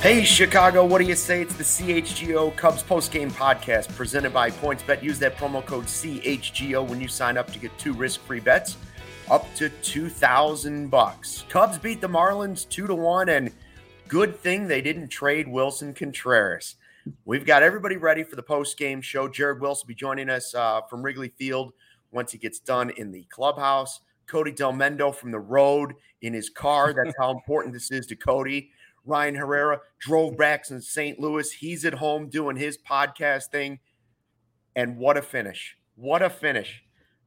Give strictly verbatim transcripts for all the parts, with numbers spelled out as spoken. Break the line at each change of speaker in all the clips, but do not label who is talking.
Hey, Chicago, what do you say? It's the C H G O Cubs postgame podcast presented by PointsBet. Use that promo code C H G O when you sign up to get two risk-free bets up to two thousand bucks. Cubs beat the Marlins two to one, and good thing they didn't trade Wilson Contreras. We've got everybody ready for the postgame show. Jared Wilson will be joining us uh, from Wrigley Field once he gets done in the clubhouse. Cody Delmendo from the road in his car. That's how important this is to Cody. Ryan Herrera drove back in Saint Louis. He's at home doing his podcast thing. And what a finish. What a finish.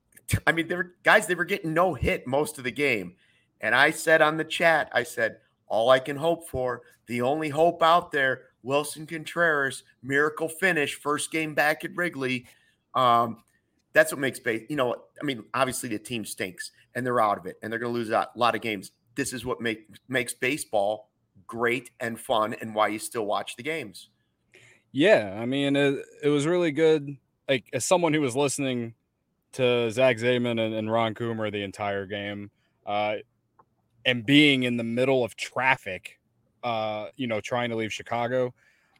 I mean, they were, guys, they were getting no hit most of the game. And I said on the chat, I said, all I can hope for, the only hope out there, Wilson Contreras, miracle finish, first game back at Wrigley. Um, that's what makes base. You know, I mean, obviously the team stinks and they're out of it and they're going to lose a lot of games. This is what make, makes baseball great and fun, and why you still watch the games.
Yeah, I mean, it, it was really good. Like, as someone who was listening to Zach Zaidman and, and Ron Coomer the entire game, uh, and being in the middle of traffic, uh, you know, trying to leave Chicago,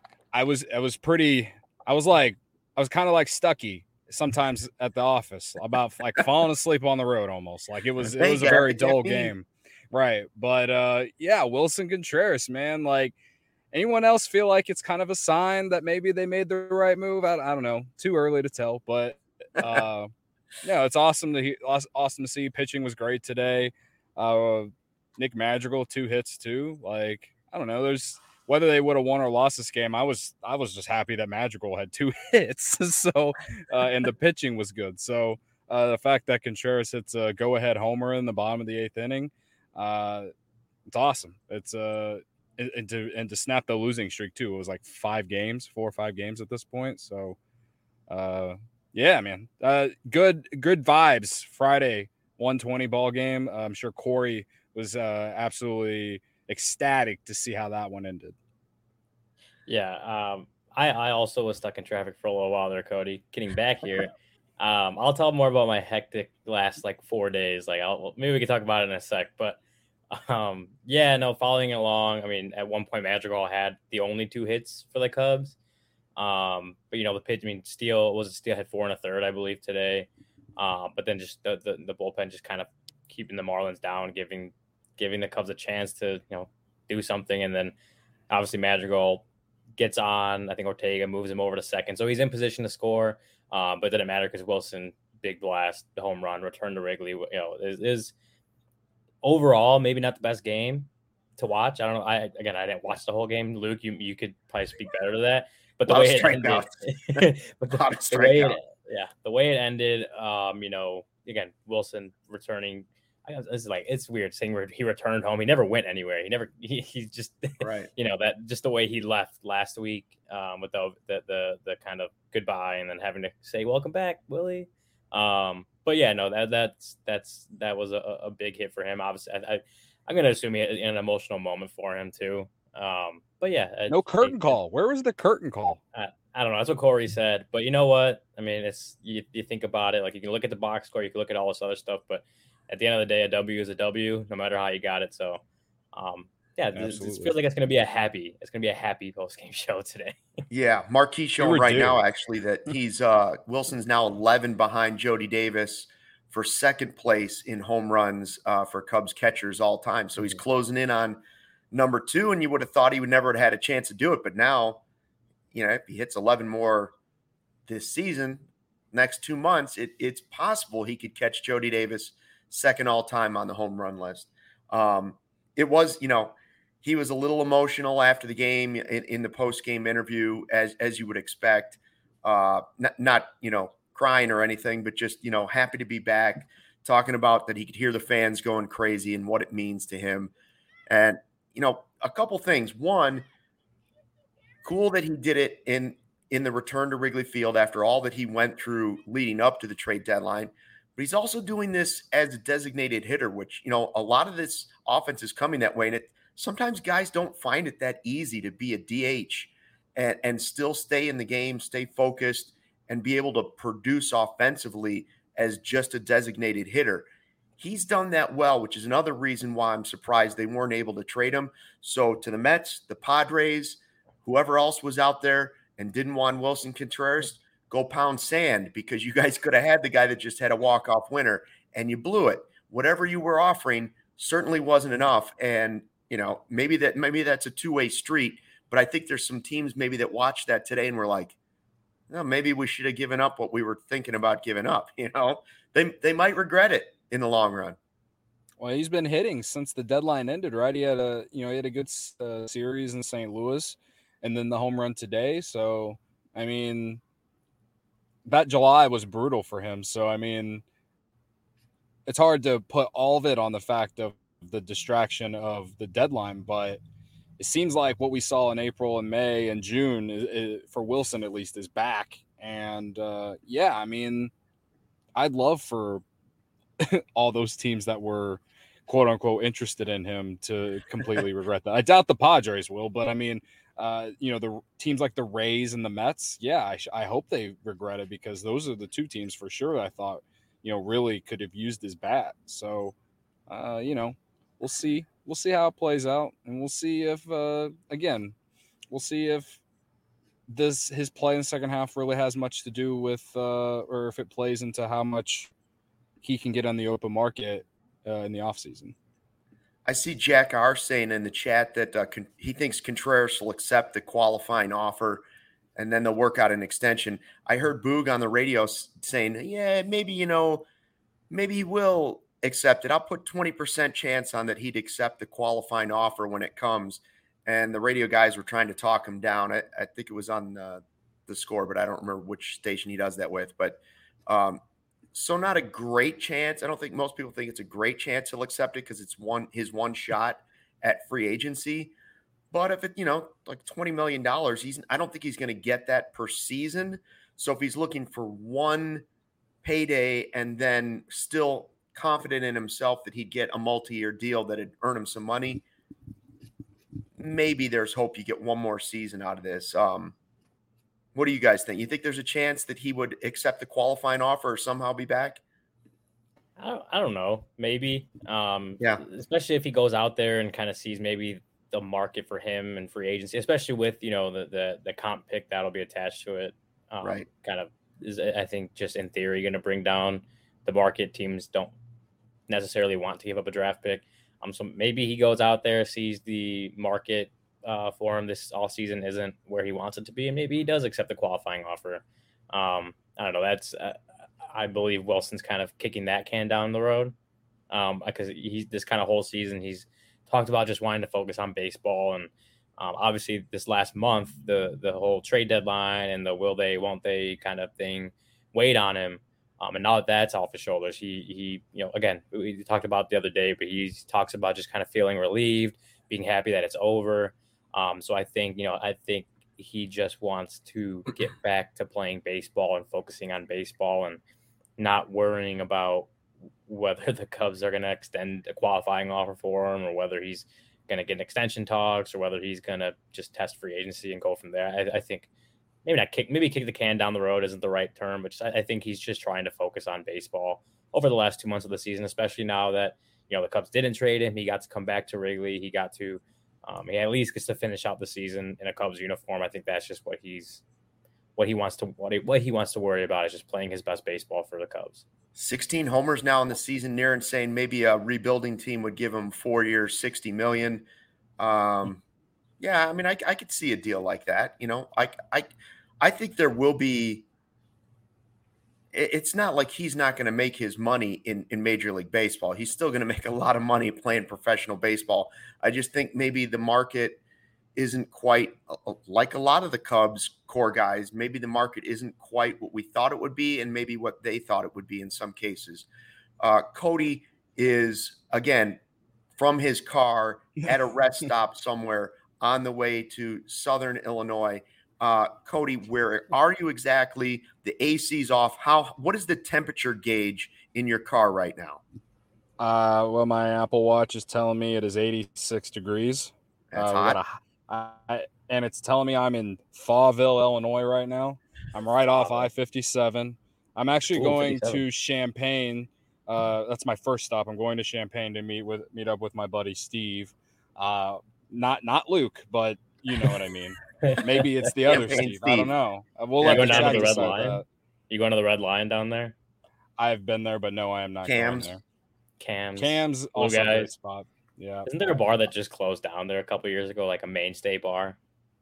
I was, I was pretty, I was like, I was kind of like Stucky sometimes at the office, about like falling asleep on the road almost. Like it was, it was a very dull game. Right. But uh, yeah, Wilson Contreras, man, like anyone else feel like it's kind of a sign that maybe they made the right move? I, I don't know. Too early to tell, but uh, yeah, it's awesome to he, awesome to see. Pitching was great today. Uh, Nick Madrigal, two hits too. Like, I don't know. There's whether they would have won or lost this game. I was, I was just happy that Madrigal had two hits. So, uh, and the pitching was good. So uh, the fact that Contreras hits a go ahead homer in the bottom of the eighth inning, Uh, it's awesome. It's uh, and, and to and to snap the losing streak too. It was like five games, four or five games at this point. So, uh, yeah, man. Uh, good good vibes. Friday, one twenty ball game. Uh, I'm sure Corey was uh absolutely ecstatic to see how that one ended.
Yeah, um, I I also was stuck in traffic for a little while there, Cody. Getting back here. Um, I'll tell more about my hectic last like four days. Like, I'll maybe we can talk about it in a sec. But um, yeah, no, following along. I mean, at one point, Madrigal had the only two hits for the Cubs. Um, but you know, the pitch. I mean, Steele was Steele had four and a third, I believe, today. Uh, but then just the, the the bullpen just kind of keeping the Marlins down, giving giving the Cubs a chance to you know do something, and then obviously Madrigal gets on. I think Ortega moves him over to second, so he's in position to score. Um, but it didn't matter because Wilson, big blast, the home run, return to Wrigley, you know, is, is overall maybe not the best game to watch. I don't know. I again, I didn't watch the whole game. Luke, you you could probably speak better to that. But the way it ended, but the, the way it, yeah, the way it ended, um, you know, again, Wilson returning. It's like it's weird saying where he returned home. He never went anywhere. He never. He, he just
right.
You know that just the way he left last week um, with the, the the the kind of goodbye and then having to say welcome back, Willie. Um, but yeah, no, that that's that's that was a, a big hit for him. Obviously, I, I I'm gonna assume he had an emotional moment for him too. Um, but yeah,
no curtain it, call. Where was the curtain call?
I, I don't know. That's what Corey said. But you know what? I mean, it's you, you think about it. Like you can look at the box score, you can look at all this other stuff, but at the end of the day, a W is a W, no matter how you got it. So, um, yeah, it feels like it's going to be a happy, it's going to be a happy post-game show today.
Yeah, Marquis showing right now, actually, that he's uh, Wilson's now eleven behind Jody Davis for second place in home runs uh, for Cubs catchers all time. So he's closing in on number two, and you would have thought he would never have had a chance to do it. But now, you know, if he hits eleven more this season, next two months, it, it's possible he could catch Jody Davis second all time on the home run list. Um, it was, you know, he was a little emotional after the game in, in the post game interview, as as you would expect. Uh, not, not, you know, crying or anything, but just, you know, happy to be back, talking about that he could hear the fans going crazy and what it means to him. And, you know, a couple things. One, cool that he did it in in the return to Wrigley Field after all that he went through leading up to the trade deadline. But he's also doing this as a designated hitter, which, you know, a lot of this offense is coming that way. And it sometimes guys don't find it that easy to be a D H and, and still stay in the game, stay focused, and be able to produce offensively as just a designated hitter. He's done that well, which is another reason why I'm surprised they weren't able to trade him. So to the Mets, the Padres, whoever else was out there and didn't want Wilson Contreras, go pound sand, because you guys could have had the guy that just had a walk-off winner and you blew it. Whatever you were offering certainly wasn't enough. And, you know, maybe that maybe that's a two-way street, but I think there's some teams maybe that watched that today and were like, no, maybe we should have given up what we were thinking about giving up. You know, they they might regret it in the long run.
Well, he's been hitting since the deadline ended, right? He had a, you know, he had a good uh, series in Saint Louis, and then the home run today. So, I mean, that July was brutal for him. So, I mean, it's hard to put all of it on the fact of the distraction of the deadline, but it seems like what we saw in April and May and June is, is, for Wilson at least, is back. And uh, yeah, I mean, I'd love for all those teams that were quote unquote interested in him to completely regret that. I doubt the Padres will, but I mean, uh, you know, the teams like the Rays and the Mets, yeah, I, sh- I hope they regret it, because those are the two teams for sure that I thought, you know, really could have used his bat. So, uh, you know, we'll see. We'll see how it plays out, and we'll see if, uh, again, we'll see if this his play in the second half really has much to do with, uh, or if it plays into how much he can get on the open market uh, in the offseason.
I see Jack R saying in the chat that uh, con- he thinks Contreras will accept the qualifying offer and then they'll work out an extension. I heard Boog on the radio saying, yeah, maybe, you know, maybe he will accept it. I'll put twenty percent chance on that he'd accept the qualifying offer when it comes. And the radio guys were trying to talk him down. I, I think it was on the, the Score, but I don't remember which station he does that with. But um, so not a great chance. I don't think most people think it's a great chance he'll accept it, because it's one his one shot at free agency. But if it, you know, like twenty million dollars, he's I don't think he's going to get that per season. So if he's looking for one payday and then still confident in himself that he'd get a multi-year deal that'd earn him some money, maybe there's hope you get one more season out of this. Um, what do you guys think? You think there's a chance that he would accept the qualifying offer or somehow be back?
I don't, I don't know. Maybe. Um,
yeah.
Especially if he goes out there and kind of sees maybe the market for him and free agency, especially with, you know, the the, the comp pick that'll be attached to it. Um,
right.
Kind of is, I think, just in theory, going to bring down the market. Teams don't necessarily want to give up a draft pick. Um, so maybe he goes out there, sees the market uh, for him this all season isn't where he wants it to be, and maybe he does accept the qualifying offer. Um, I don't know. That's uh, I believe Wilson's kind of kicking that can down the road, um, because he's this kind of whole season he's talked about just wanting to focus on baseball, and um, obviously this last month the the whole trade deadline and the will they won't they kind of thing weighed on him. Um, and now that that's off his shoulders, he, he, you know, again, we talked about the other day, but he talks about just kind of feeling relieved, being happy that it's over. Um, so I think, you know, I think he just wants to get back to playing baseball and focusing on baseball and not worrying about whether the Cubs are going to extend a qualifying offer for him or whether he's going to get an extension talks or whether he's going to just test free agency and go from there. I, I think maybe not kick, maybe kick the can down the road isn't the right term, but just, I, I think he's just trying to focus on baseball over the last two months of the season, especially now that, you know, the Cubs didn't trade him. He got to come back to Wrigley. He got to, um, he at least gets to finish out the season in a Cubs uniform. I think that's just what he's, what he wants to, what he, what he wants to worry about is just playing his best baseball for the Cubs.
sixteen homers now in the season. Near saying maybe a rebuilding team would give him four years, sixty million. Um, yeah, I mean, I, I could see a deal like that. You know, I, I, I think there will be. It's not like he's not going to make his money in, in Major League Baseball. He's still going to make a lot of money playing professional baseball. I just think maybe the market isn't quite like a lot of the Cubs core guys. Maybe the market isn't quite what we thought it would be, and maybe what they thought it would be in some cases. Uh, Cody is, again, from his car at a rest stop somewhere on the way to Southern Illinois. Uh, Cody, where are you exactly? The A C's off. How? What is the temperature gauge in your car right now?
Uh, well, my Apple Watch is telling me it is eighty-six degrees.
That's
uh,
hot.
A, I, and it's telling me I'm in Fauville, Illinois right now. I'm right off I fifty-seven. I'm actually
Ooh,
going
fifty-seven.
to Champaign Uh, that's my first stop. I'm going to Champaign to meet with meet up with my buddy Steve. Uh, not not Luke, but you know what I mean. Maybe it's the other Steve. Steve. I don't know. We'll
yeah,
let
go
the
down
chat
to the Red
decide
Lion.
that.
You going to the Red Lion down there?
I've been there, but no, I am not
Cam's.
going there.
Cam's.
Cam's
Blue
also a great
Guys.
spot. Yeah.
Isn't there a bar that just closed down there a couple years ago, like a mainstay bar?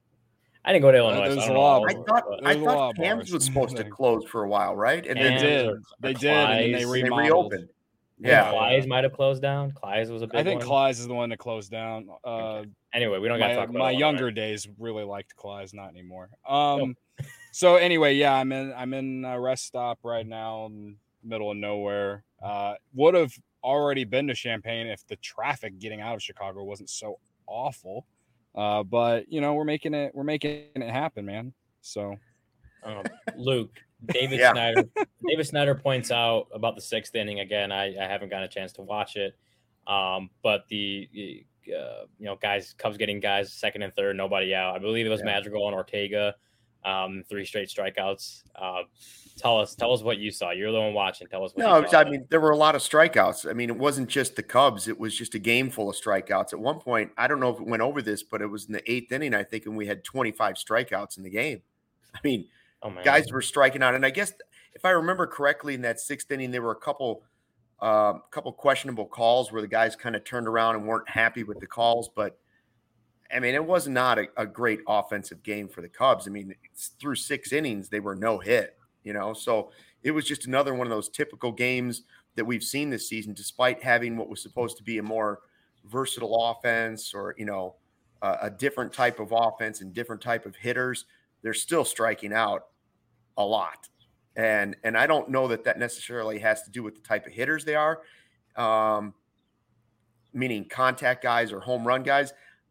I didn't go to Illinois.
Uh, there's
so I,
a lot.
I thought I
There's a lot
thought
of
Cam's
bars.
was supposed to close for a while, right? And
They
Cam's
then
did.
or- or
They did, and then they
Clyde's.
they
remodeled.
reopened.
Yeah,
Yeah.
Clyde's might have closed down. Clyde's was a big
I think
one.
Clyde's is the one that closed down. Uh,
Okay. Anyway, we don't got to
my
talk about
my
Illinois.
younger days really liked Clyde's, not anymore. Um, so anyway, yeah, I'm in I'm in a rest stop right now, in the middle of nowhere. Uh, would have already been to Champaign if the traffic getting out of Chicago wasn't so awful. Uh, but you know, we're making it we're making it happen, man. So,
Um, Luke, David
Yeah.
Snyder. David Snyder points out about the sixth inning again. I, I haven't gotten a chance to watch it, um, but the uh, you know guys, Cubs getting guys second and third, nobody out. I believe it was
Yeah.
Madrigal and Ortega, um, three straight strikeouts. Uh, tell us, tell us what you saw. You're the one watching. Tell us what
No,
you saw.
I mean, there were a lot of strikeouts. I mean, it wasn't just the Cubs. It was just a game full of strikeouts. At one point, I don't know if it went over this, but it was in the eighth inning, I think, and we had twenty-five strikeouts in the game. I mean,
oh man,
guys were striking out. And I guess if I remember correctly, in that sixth inning, there were a couple um, couple questionable calls where the guys kind of turned around and weren't happy with the calls. But, I mean, it was not a, a great offensive game for the Cubs. I mean, it's through six innings, they were no hit, you know. So it was just another one of those typical games that we've seen this season, despite having what was supposed to be a more versatile offense or, you know, uh, a different type of offense and different type of hitters. They're still striking out a lot. And and I don't know that that necessarily has to do with the type of hitters they are, um, meaning contact guys or home run guys.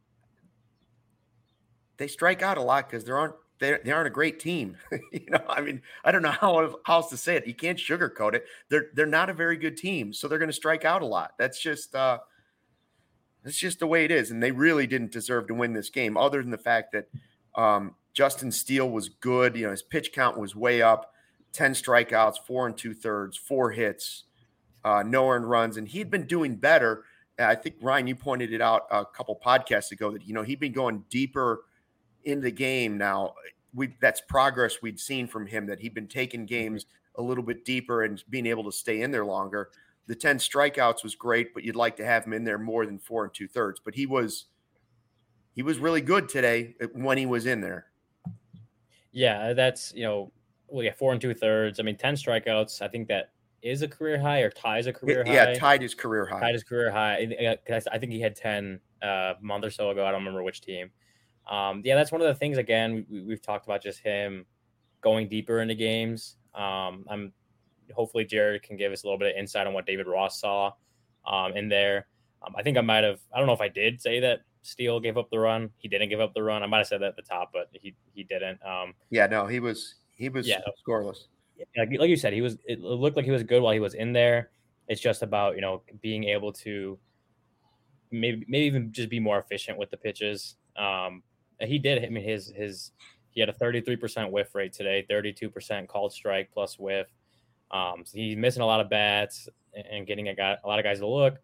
They strike out a lot because they aren't they, they aren't a great team. you know, I mean, I don't know how, how else to say it. You can't sugarcoat it. They're they're not a very good team, so they're going to strike out a lot. That's just uh, that's just the way it is. And they really didn't deserve to win this game, other than the fact that um, Justin Steele was good. You know, his pitch count was way up. ten strikeouts, four and two thirds, four hits, uh, no earned runs. And he'd been doing better. I think, Ryan, you pointed it out a couple podcasts ago that, you know, he'd been going deeper in the game now. We that's progress we'd seen from him, that he'd been taking games a little bit deeper and being able to stay in there longer. The ten strikeouts was great, but you'd like to have him in there more than four and two thirds. But he was he was really good today when he was in there.
Yeah, that's, you know, well, yeah, four and two thirds. I mean, ten strikeouts. I think that is a career high or ties a career
It, yeah,
high.
tied his career high.
Tied his career high. I think he had ten uh, a month or so ago. I don't remember which team. Um, yeah, that's one of the things, again, we, we've talked about, just him going deeper into games. Um, I'm hopefully Jared can give us a little bit of insight on what David Ross saw um, in there. Um, I think I might have, I don't know if I did say that Steele gave up the run. He didn't give up the run. I might have said that at the top, but he he didn't. Um,
yeah, no, he was he was
yeah.
scoreless.
Like, like you said, he was. It looked like he was good while he was in there. It's just about, you know, being able to maybe maybe even just be more efficient with the pitches. Um, he did. I mean, his his he had a thirty-three percent whiff rate today, thirty-two percent called strike plus whiff. Um, so he's missing a lot of bats and getting a guy a lot of guys to look.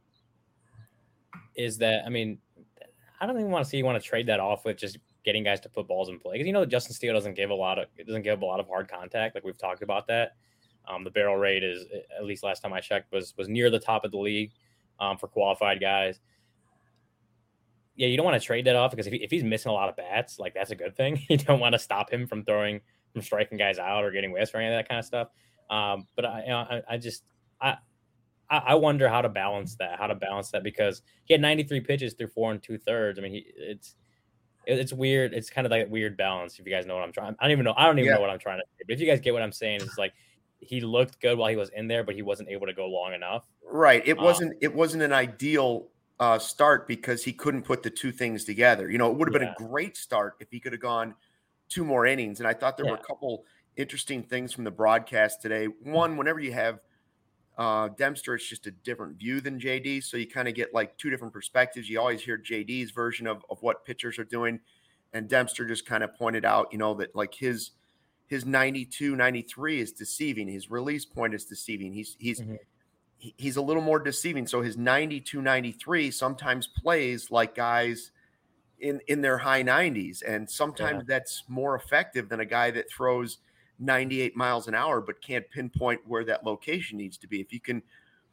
Is that, I mean, I don't even want to see you want to trade that off with just getting guys to put balls in play, because you know Justin Steele doesn't give a lot of it doesn't give a lot of hard contact, like we've talked about that. Um, the barrel rate is, at least last time I checked, was was near the top of the league um, for qualified guys. Yeah, you don't want to trade that off, because if, he, if he's missing a lot of bats, like, that's a good thing. You don't want to stop him from throwing, from striking guys out or getting whiffs or any of that kind of stuff. Um, but I, I, I just, I, I wonder how to balance that, how to balance that, because he had ninety-three pitches through four and two thirds. I mean, he, it's, it's weird. It's kind of like a weird balance. If you guys know what I'm trying, I don't even know. I don't even
yeah.
know what I'm trying to say. But if you guys get what I'm saying, it's like he looked good while he was in there, but he wasn't able to go long enough.
Right. It
Um,
wasn't. It wasn't an ideal uh, start because he couldn't put the two things together. You know, it would have been
Yeah.
a great start if he could have gone two more innings. And I thought there
Yeah.
were a couple interesting things from the broadcast today. One, whenever you have uh, Dempster, it's just a different view than J D. So you kind of get like two different perspectives. You always hear J D's version of, of what pitchers are doing. And Dempster just kind of pointed out, you know, that like his his ninety-two, ninety-three is deceiving. His release point is deceiving. He's he's
Mhm.
he's a little more deceiving. So his ninety-two ninety-three sometimes plays like guys in, in their high nineties. And sometimes yeah. that's more effective than a guy that throws ninety-eight miles an hour, but can't pinpoint where that location needs to be. If you can,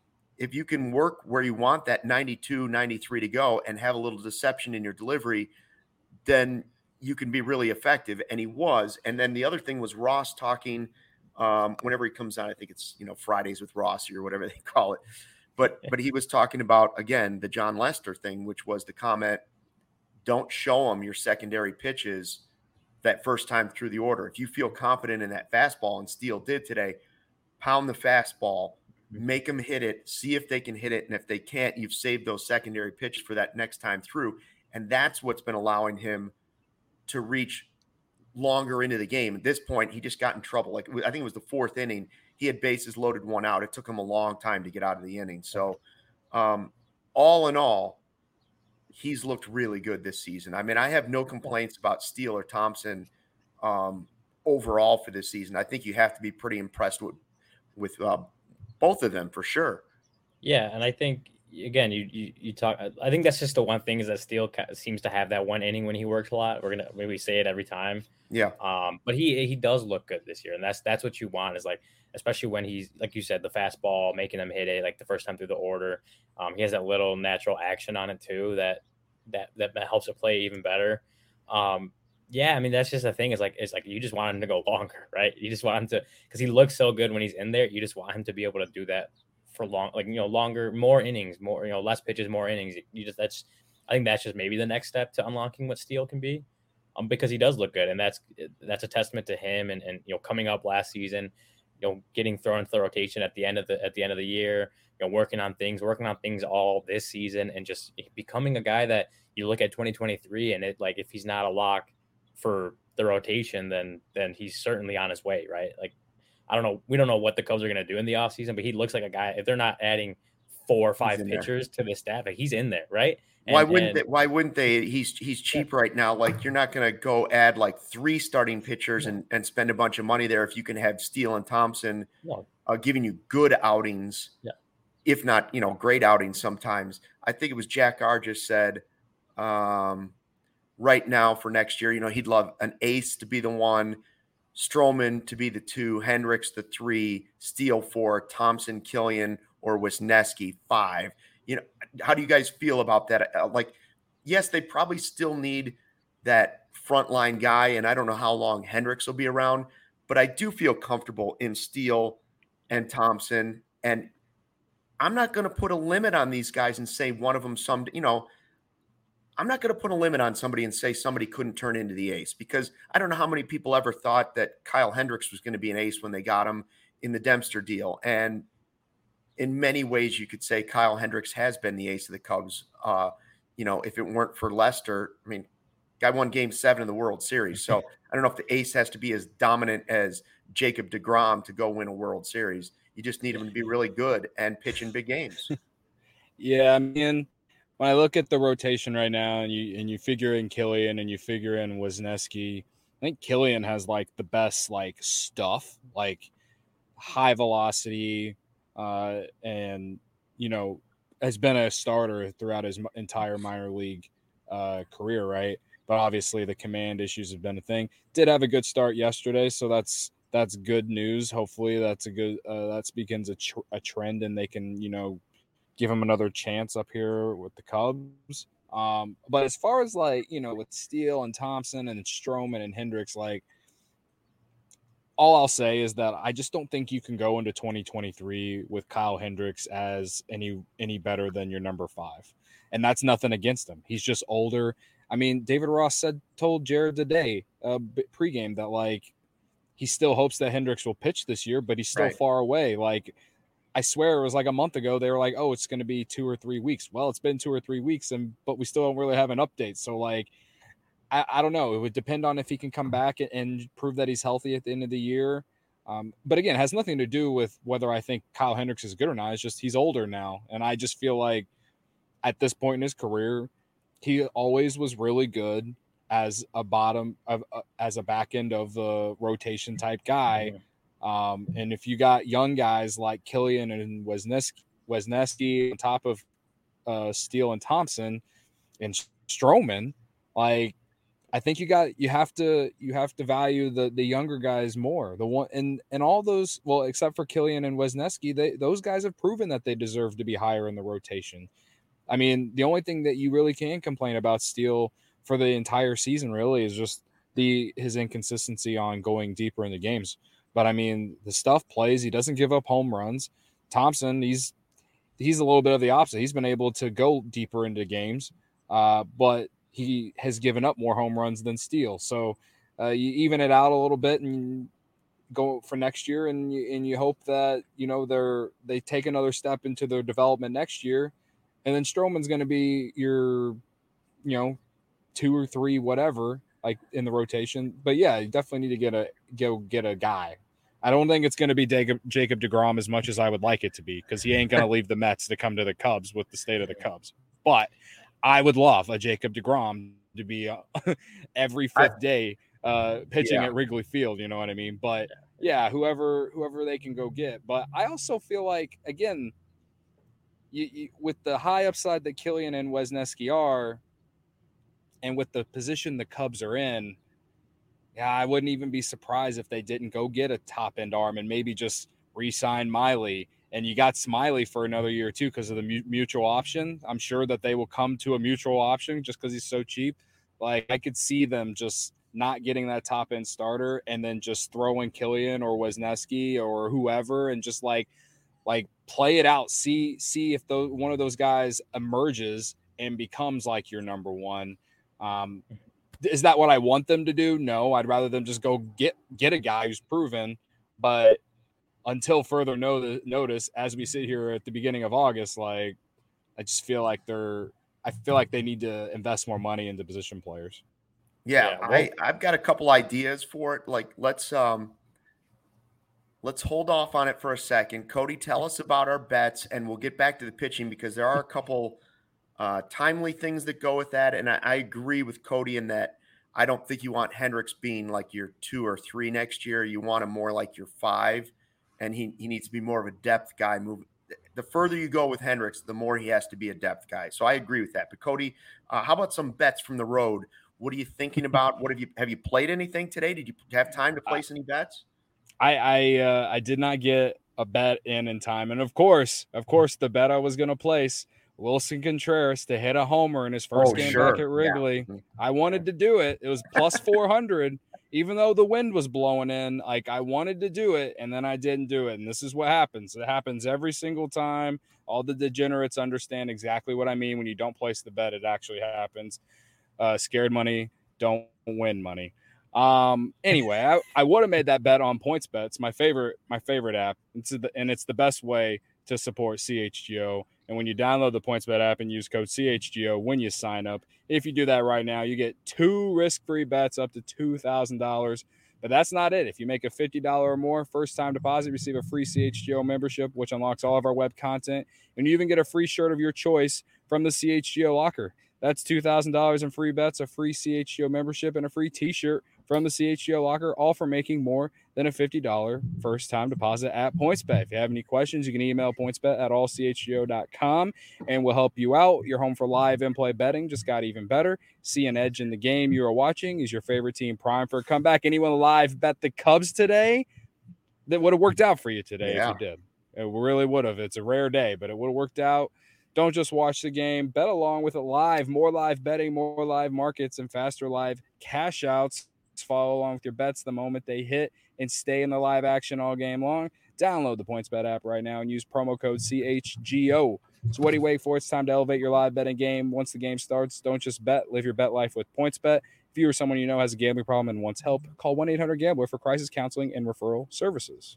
if you can work where you want that ninety-two ninety-three to go and have a little deception in your delivery, then you can be really effective. And he was. And then the other thing was Ross talking, Um, whenever he comes out, I think it's, you know, Fridays with Rossi or whatever they call it. But but he was talking about, again, the John Lester thing, which was the comment, don't show him your secondary pitches that first time through the order. If you feel confident in that fastball, and Steele did today, pound the fastball, make them hit it, see if they can hit it. And if they can't, you've saved those secondary pitches for that next time through. And that's what's been allowing him to reach longer into the game. At this point, he just got in trouble. Like, I think it was the fourth inning. He had bases loaded, one out. It took him a long time to get out of the inning. So um, all in all, he's looked really good this season. I mean, I have no complaints about Steele or Thompson um, overall for this season. I think you have to be pretty impressed with, with uh, both of them for sure.
Yeah. And I think, again, you, you you talk. I think that's just the one thing is that Steele seems to have that one inning when he works a lot. We're gonna maybe say it every time.
Yeah.
Um. But he he does look good this year, and that's that's what you want is like, especially when he's like you said, the fastball, making them hit it like the first time through the order. Um. He has that little natural action on it too that that that helps it play even better. Um. Yeah. I mean, that's just the thing. Is like it's like you just want him to go longer, right? You just want him to because he looks so good when he's in there. You just want him to be able to do that for long, like, you know, longer, more innings, more, you know, less pitches, more innings. You just, that's, I think that's just maybe the next step to unlocking what Steele can be, um, because he does look good. And that's, that's a testament to him. And, and, you know, coming up last season, you know, getting thrown into the rotation at the end of the, at the end of the year, you know, working on things, working on things all this season and just becoming a guy that you look at twenty twenty-three and it, like, if he's not a lock for the rotation, then, then he's certainly on his way. Right. Like, I don't know. We don't know what the Cubs are going to do in the offseason, but he looks like a guy. If they're not adding four or five pitchers there to the staff, like he's in there, right?
And, why wouldn't and, they, Why wouldn't they? He's he's cheap yeah. right now. Like you're not going to go add like three starting pitchers yeah. and, and spend a bunch of money there if you can have Steele and Thompson no. uh, giving you good outings,
yeah.
if not you know great outings sometimes. I think it was Jack R just said um, right now for next year, you know, he'd love an ace to be the one. Stroman to be the two, Hendricks the three, Steele four, Thompson, Killian, or Wisniewski five. You know, how do you guys feel about that? Like, yes, they probably still need that frontline guy, and I don't know how long Hendricks will be around, but I do feel comfortable in Steele and Thompson, and I'm not going to put a limit on these guys and say one of them some, you know, I'm not going to put a limit on somebody and say somebody couldn't turn into the ace because I don't know how many people ever thought that Kyle Hendricks was going to be an ace when they got him in the Dempster deal. And in many ways, you could say Kyle Hendricks has been the ace of the Cubs. Uh, you know, if it weren't for Lester, I mean, guy won game seven of the World Series. So I don't know if the ace has to be as dominant as Jacob deGrom to go win a World Series. You just need him to be really good and pitch in big games.
Yeah, I mean, when I look at the rotation right now and you and you figure in Killian and you figure in Wisniewski, I think Killian has like the best like stuff, like high velocity, uh, and you know has been a starter throughout his entire minor league uh, career, right? But obviously the command issues have been a thing. Did have a good start yesterday, so that's that's good news. Hopefully that's a good uh, that begins a, tr- a trend and they can you know. give him another chance up here with the Cubs. Um, but as far as like, you know, with Steele and Thompson and Stroman and Hendricks, like all I'll say is that I just don't think you can go into twenty twenty-three with Kyle Hendricks as any, any better than your number five. And that's nothing against him. He's just older. I mean, David Ross said, told Jared today, uh, pregame that like, he still hopes that Hendricks will pitch this year, but he's still right. far away. Like, I swear it was like a month ago. They were like, oh, it's going to be two or three weeks. Well, it's been two or three weeks, and but we still don't really have an update. So, like, I, I don't know. It would depend on if he can come back and, and prove that he's healthy at the end of the year. Um, but, again, it has nothing to do with whether I think Kyle Hendricks is good or not. It's just he's older now. And I just feel like at this point in his career, he always was really good as a bottom of uh, as a back end of the rotation type guy. Um, and if you got young guys like Killian and Wisniewski, Wesneski on top of uh, Steele and Thompson and Stroman, like I think you got you have to you have to value the the younger guys more. The one and and all those, well, except for Killian and Wesneski, they those guys have proven that they deserve to be higher in the rotation. I mean, the only thing that you really can complain about Steele for the entire season really is just the his inconsistency on going deeper into games. But I mean, the stuff plays. He doesn't give up home runs. Thompson, he's he's a little bit of the opposite. He's been able to go deeper into games, uh, but he has given up more home runs than Steele. So uh, you even it out a little bit and go for next year, and you, and you hope that you know they're they take another step into their development next year, and then Stroman's going to be your, you know, two or three whatever like in the rotation. But yeah, you definitely need to get a go get a guy. I don't think it's going to be Jacob, Jacob deGrom as much as I would like it to be, because he ain't going to leave the Mets to come to the Cubs with the state of the Cubs. But I would love a Jacob deGrom to be uh, every fifth I, day uh, pitching yeah. at Wrigley Field. You know what I mean? But yeah, whoever whoever they can go get. But I also feel like, again, you, you, with the high upside that Killian and Wesneski are, and with the position the Cubs are in, yeah, I wouldn't even be surprised if they didn't go get a top-end arm and maybe just re-sign Miley. And you got Smiley for another year, too, because of the mu- mutual option. I'm sure that they will come to a mutual option just because he's so cheap. Like, I could see them just not getting that top-end starter and then just throwing Killian or Wesneski or whoever and just, like, like play it out. See see if those, one of those guys emerges and becomes, like, your number one. Um Is that what I want them to do? No, I'd rather them just go get get a guy who's proven. But until further no- notice, as we sit here at the beginning of August, like I just feel like they're I feel like they need to invest more money into position players.
Yeah, yeah well, I I've got a couple ideas for it. Like let's um let's hold off on it for a second. Cody, tell us about our bets, and we'll get back to the pitching because there are a couple Uh, timely things that go with that. And I, I agree with Cody in that I don't think you want Hendricks being like your two or three next year. You want him more like your five, and he, he needs to be more of a depth guy. Move the further you go with Hendricks, the more he has to be a depth guy. So I agree with that. But Cody, uh, how about some bets from the road? What are you thinking about? What have you have you played anything today? Did you have time to place any bets?
I I uh, I did not get a bet in in time, and of course, of course, the bet I was going to place, Wilson Contreras to hit a homer in his first
oh,
game
sure.
back at Wrigley.
Yeah.
I wanted to do it. It was plus four hundred, even though the wind was blowing in. Like I wanted to do it, and then I didn't do it. And this is what happens. It happens every single time. All the degenerates understand exactly what I mean. When you don't place the bet, it actually happens. Uh, scared money don't win money. Um, anyway, I, I would have made that bet on PointsBet, my favorite, my favorite app. It's the, and it's the best way to support C H G O. And when you download the PointsBet app and use code C H G O when you sign up, if you do that right now, you get two risk-free bets up to two thousand dollars. But that's not it. If you make a fifty dollars or more first-time deposit, receive a free C H G O membership, which unlocks all of our web content. And you even get a free shirt of your choice from the C H G O locker. That's two thousand dollars in free bets, a free C H G O membership, and a free t-shirt from the C H G O locker, all for making more than a fifty dollars first-time deposit at PointsBet. If you have any questions, you can email pointsbet at all c h g o dot com, and we'll help you out. You're home for live in-play betting. Just got even better. See an edge in the game you are watching. Is your favorite team primed for a comeback? Anyone live bet the Cubs today? That would have worked out for you today yeah. if you did. It really would have. It's a rare day, but it would have worked out. Don't just watch the game. Bet along with it live. More live betting, more live markets, and faster live cash outs. Follow along with your bets the moment they hit and stay in the live action all game long. Download the PointsBet app right now and use promo code C H G O. So what do you wait for? It's time to elevate your live betting game. Once the game starts, don't just bet. Live your bet life with PointsBet. If you or someone you know has a gambling problem and wants help, call one eight hundred gambler for crisis counseling and referral services.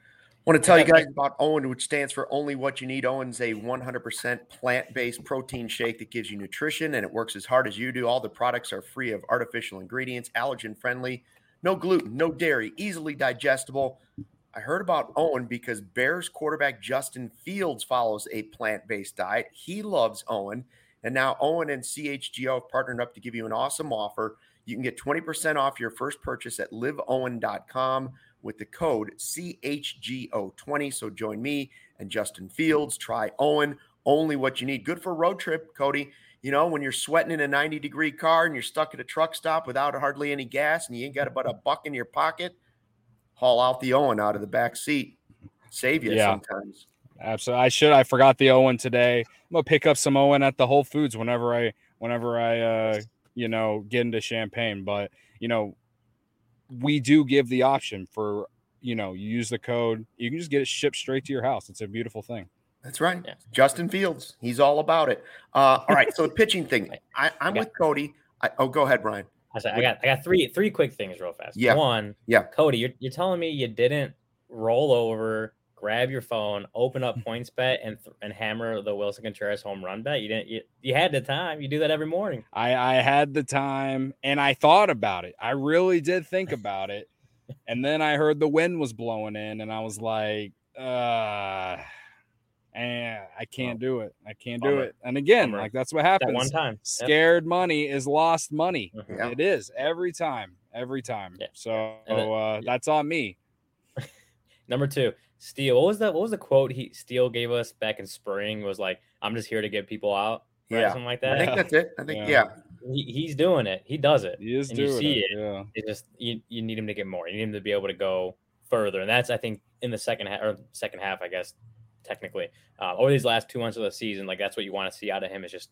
I want to tell you guys about Owen, which stands for Only What You Need. Owen's a one hundred percent plant-based protein shake that gives you nutrition, and it works as hard as you do. All the products are free of artificial ingredients, allergen-friendly, no gluten, no dairy, easily digestible. I heard about Owen because Bears quarterback Justin Fields follows a plant-based diet. He loves Owen, and now Owen and C H G O have partnered up to give you an awesome offer. You can get twenty percent off your first purchase at live owen dot com with the code C H G O twenty. So join me and Justin Fields. Try Owen. Only what you need. Good for a road trip, Cody. You know, when you're sweating in a ninety degree car and you're stuck at a truck stop without hardly any gas and you ain't got about a buck in your pocket, haul out the Owen out of the back seat. Save you yeah, sometimes.
Absolutely. I should. I forgot the Owen today. I'm gonna pick up some Owen at the Whole Foods whenever I whenever I uh you know get into Champaign. But you know, we do give the option for, you know, you use the code, you can just get it shipped straight to your house. It's a beautiful thing.
That's right. Yeah. Justin Fields. He's all about it. Uh, all right. So the pitching thing, I, I'm I got, with Cody. I, oh, go ahead, Brian.
I, said, I got I got three three quick things real fast.
Yeah.
One,
yeah.
Cody, you're, you're telling me you didn't roll over, grab your phone, open up PointsBet, and and hammer the Wilson Contreras home run bet? You didn't. You, you had the time. You do that every morning.
I, I had the time, and I thought about it. I really did think about it. And then I heard the wind was blowing in, and I was like, uh and I can't do it. I can't do it. And again, like that's what happens.
That one time. Yep.
Scared money is lost money.
Yeah.
It is every time, every time. Yeah. So then, uh, yeah. that's on me.
Number two, Steele. What was that? What was the quote he Steele gave us back in spring? Was like, "I'm just here to get people out." Right?
Yeah,
something like that.
I think that's it. I think yeah.
yeah. He, he's doing it. He does it.
He is
and
doing
you see
it.
it.
Yeah.
It just you, you need him to get more. You need him to be able to go further, and that's I think in the second half or second half, I guess. Technically, uh, over these last two months of the season, like that's what you want to see out of him is just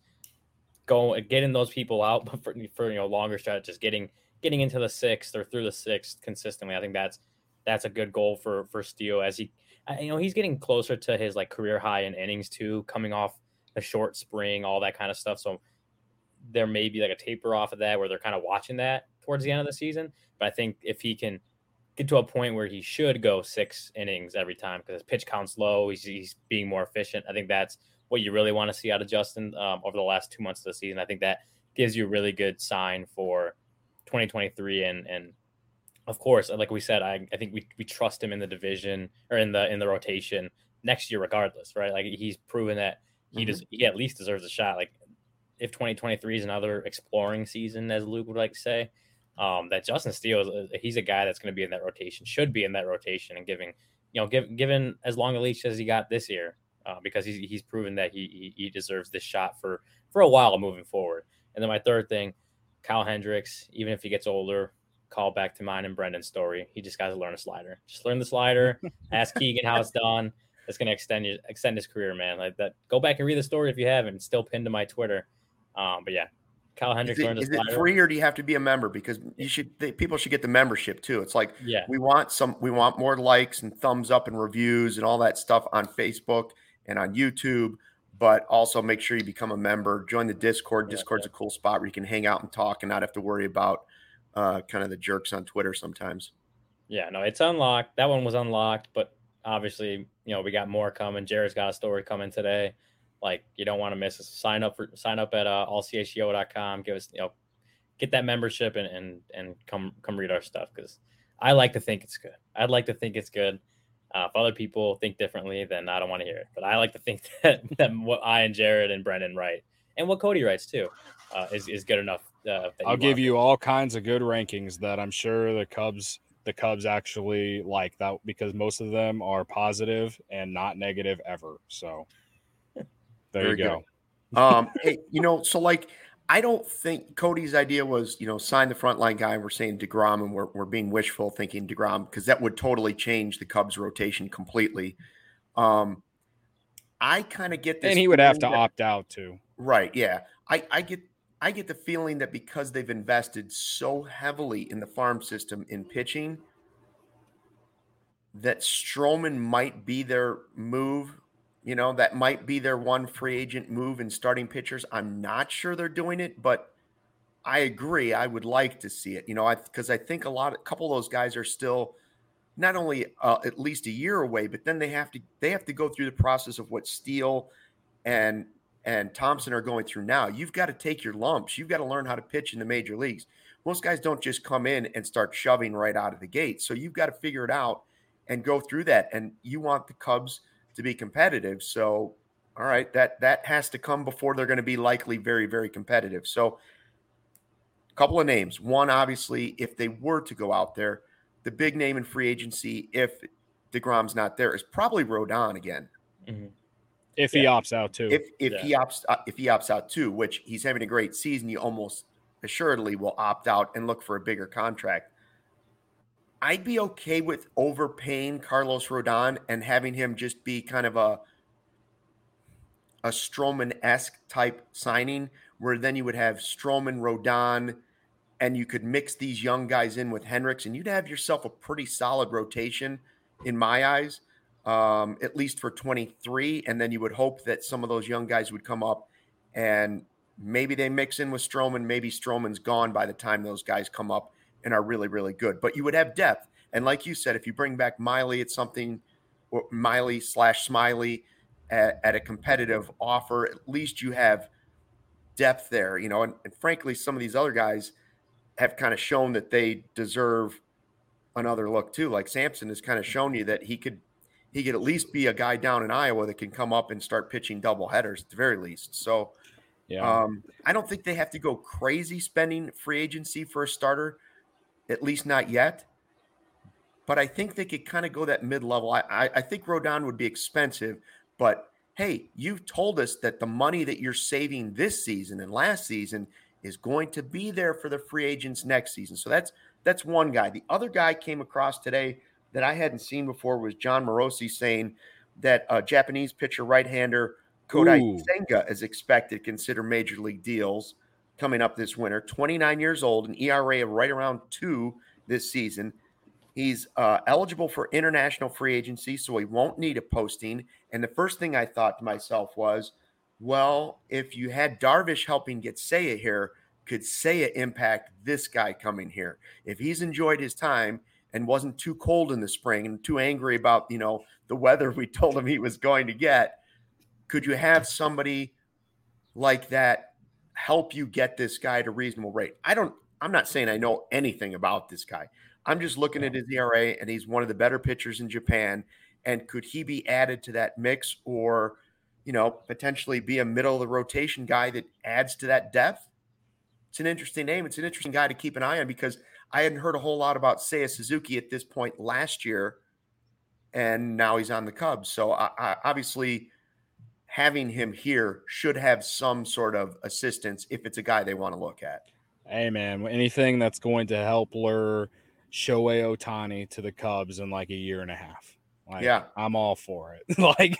go getting those people out, but for, for you know longer stretches, getting getting into the sixth or through the sixth consistently. I think that's that's a good goal for for Steele as he, you know, he's getting closer to his like career high in innings too, coming off a short spring, all that kind of stuff. So there may be like a taper off of that where they're kind of watching that towards the end of the season. But I think if he can get to a point where he should go six innings every time because his pitch count's low, he's, he's being more efficient. I think that's what you really want to see out of Justin um, over the last two months of the season. I think that gives you a really good sign for twenty twenty-three. And, and of course, like we said, I, I think we, we trust him in the division or in the, in the rotation next year, regardless, right? Like he's proven that he mm-hmm. does, he at least deserves a shot. Like if twenty twenty-three is another exploring season, as Luke would like to say, Um, that Justin Steele, he's a guy that's going to be in that rotation, should be in that rotation, and giving, you know, give, given as long a leash as he got this year, uh, because he's he's proven that he, he he deserves this shot for for a while moving forward. And then my third thing, Kyle Hendricks, even if he gets older, call back to mine and Brendan's story. He just got to learn a slider. Just learn the slider. Ask Keegan how it's done. It's going to extend you, extend his career, man. Like that. Go back and read the story if you haven't. It's still pinned to my Twitter. Um, but yeah. Kyle Hendricks
is it, is it free or do you have to be a member? Because you should, they, people should get the membership too. It's like,
yeah,
we want some, we want more likes and thumbs up and reviews and all that stuff on Facebook and on YouTube, but also make sure you become a member, join the Discord. Yeah, Discord's yeah. a cool spot where you can hang out and talk and not have to worry about uh, kind of the jerks on Twitter sometimes.
Yeah, no, it's unlocked. That one was unlocked, but obviously, you know, we got more coming. Jared's got a story coming today. Like you don't want to miss it. Sign up for sign up at uh, all c h g o dot com. Give us, you know, get that membership and and and come come read our stuff because I like to think it's good. I'd like to think it's good. Uh, if other people think differently, then I don't want to hear it. But I like to think that, that what I and Jared and Brendan write and what Cody writes too uh, is is good enough. Uh,
I'll give you all kinds of good rankings that I'm sure the Cubs the Cubs actually like that because most of them are positive and not negative ever. So. There Very you go.
um, hey, you know, so like, I don't think Cody's idea was, you know, sign the frontline guy. We're saying DeGrom, and we're we're being wishful thinking DeGrom because that would totally change the Cubs rotation completely. Um, I kind of get this,
and he would have to that, opt out too.
Right? Yeah, I I get I get the feeling that because they've invested so heavily in the farm system in pitching, that Stroman might be their move. You know, that might be their one free agent move in starting pitchers. I'm not sure they're doing it, but I agree. I would like to see it, you know, I because I think a lot, a couple of those guys are still not only uh, at least a year away, but then they have to they have to go through the process of what Steele and and Thompson are going through now. You've got to take your lumps. You've got to learn how to pitch in the major leagues. Most guys don't just come in and start shoving right out of the gate. So you've got to figure it out and go through that. And you want the Cubs to be competitive. So, all right, that, that has to come before they're going to be likely very, very competitive. So a couple of names. One, obviously, if they were to go out there, the big name in free agency, if DeGrom's not there, is probably Rodon again.
Mm-hmm.
If
yeah.
he opts out too.
If if
yeah.
he opts uh, if he opts out too, which he's having a great season, you almost assuredly will opt out and look for a bigger contract. I'd be okay with overpaying Carlos Rodon and having him just be kind of a a Stroman-esque type signing, where then you would have Stroman, Rodon, and you could mix these young guys in with Hendricks, and you'd have yourself a pretty solid rotation in my eyes, um, at least for twenty-three. And then you would hope that some of those young guys would come up and maybe they mix in with Stroman. Maybe Stroman's gone by the time those guys come up and are really, really good. But you would have depth. And like you said, if you bring back Miley at something, or Miley slash Smiley at, at a competitive offer, at least you have depth there, you know. And, and frankly, some of these other guys have kind of shown that they deserve another look too. Like Sampson has kind of shown you that he could he could at least be a guy down in Iowa that can come up and start pitching double headers at the very least. So
yeah,
um, I don't think they have to go crazy spending free agency for a starter, at least not yet. But I think they could kind of go that mid-level. I, I, I think Rodon would be expensive, but hey, you've told us that the money that you're saving this season and last season is going to be there for the free agents next season. So that's that's one guy. The other guy came across today that I hadn't seen before was John Morosi saying that a Japanese pitcher right-hander Kodai
Ooh.
Senga is expected to consider major league deals coming up this winter. twenty-nine years old, an E R A of right around two this season. He's uh, eligible for international free agency, so he won't need a posting. And the first thing I thought to myself was, well, if you had Darvish helping get Seiya here, could Seiya impact this guy coming here? If he's enjoyed his time and wasn't too cold in the spring and too angry about, you know, the weather we told him he was going to get, could you have somebody like that help you get this guy at a reasonable rate? I don't, I'm not saying I know anything about this guy. I'm just looking at his E R A, and he's one of the better pitchers in Japan. And could he be added to that mix, or, you know, potentially be a middle of the rotation guy that adds to that depth? It's an interesting name. It's an interesting guy to keep an eye on, because I hadn't heard a whole lot about Seiya Suzuki at this point last year, and now he's on the Cubs. So I, I, obviously having him here should have some sort of assistance if it's a guy they want to look at.
Hey, man, anything that's going to help lure Shohei Ohtani to the Cubs in like a year and a half. Like,
yeah,
I'm all for it. like,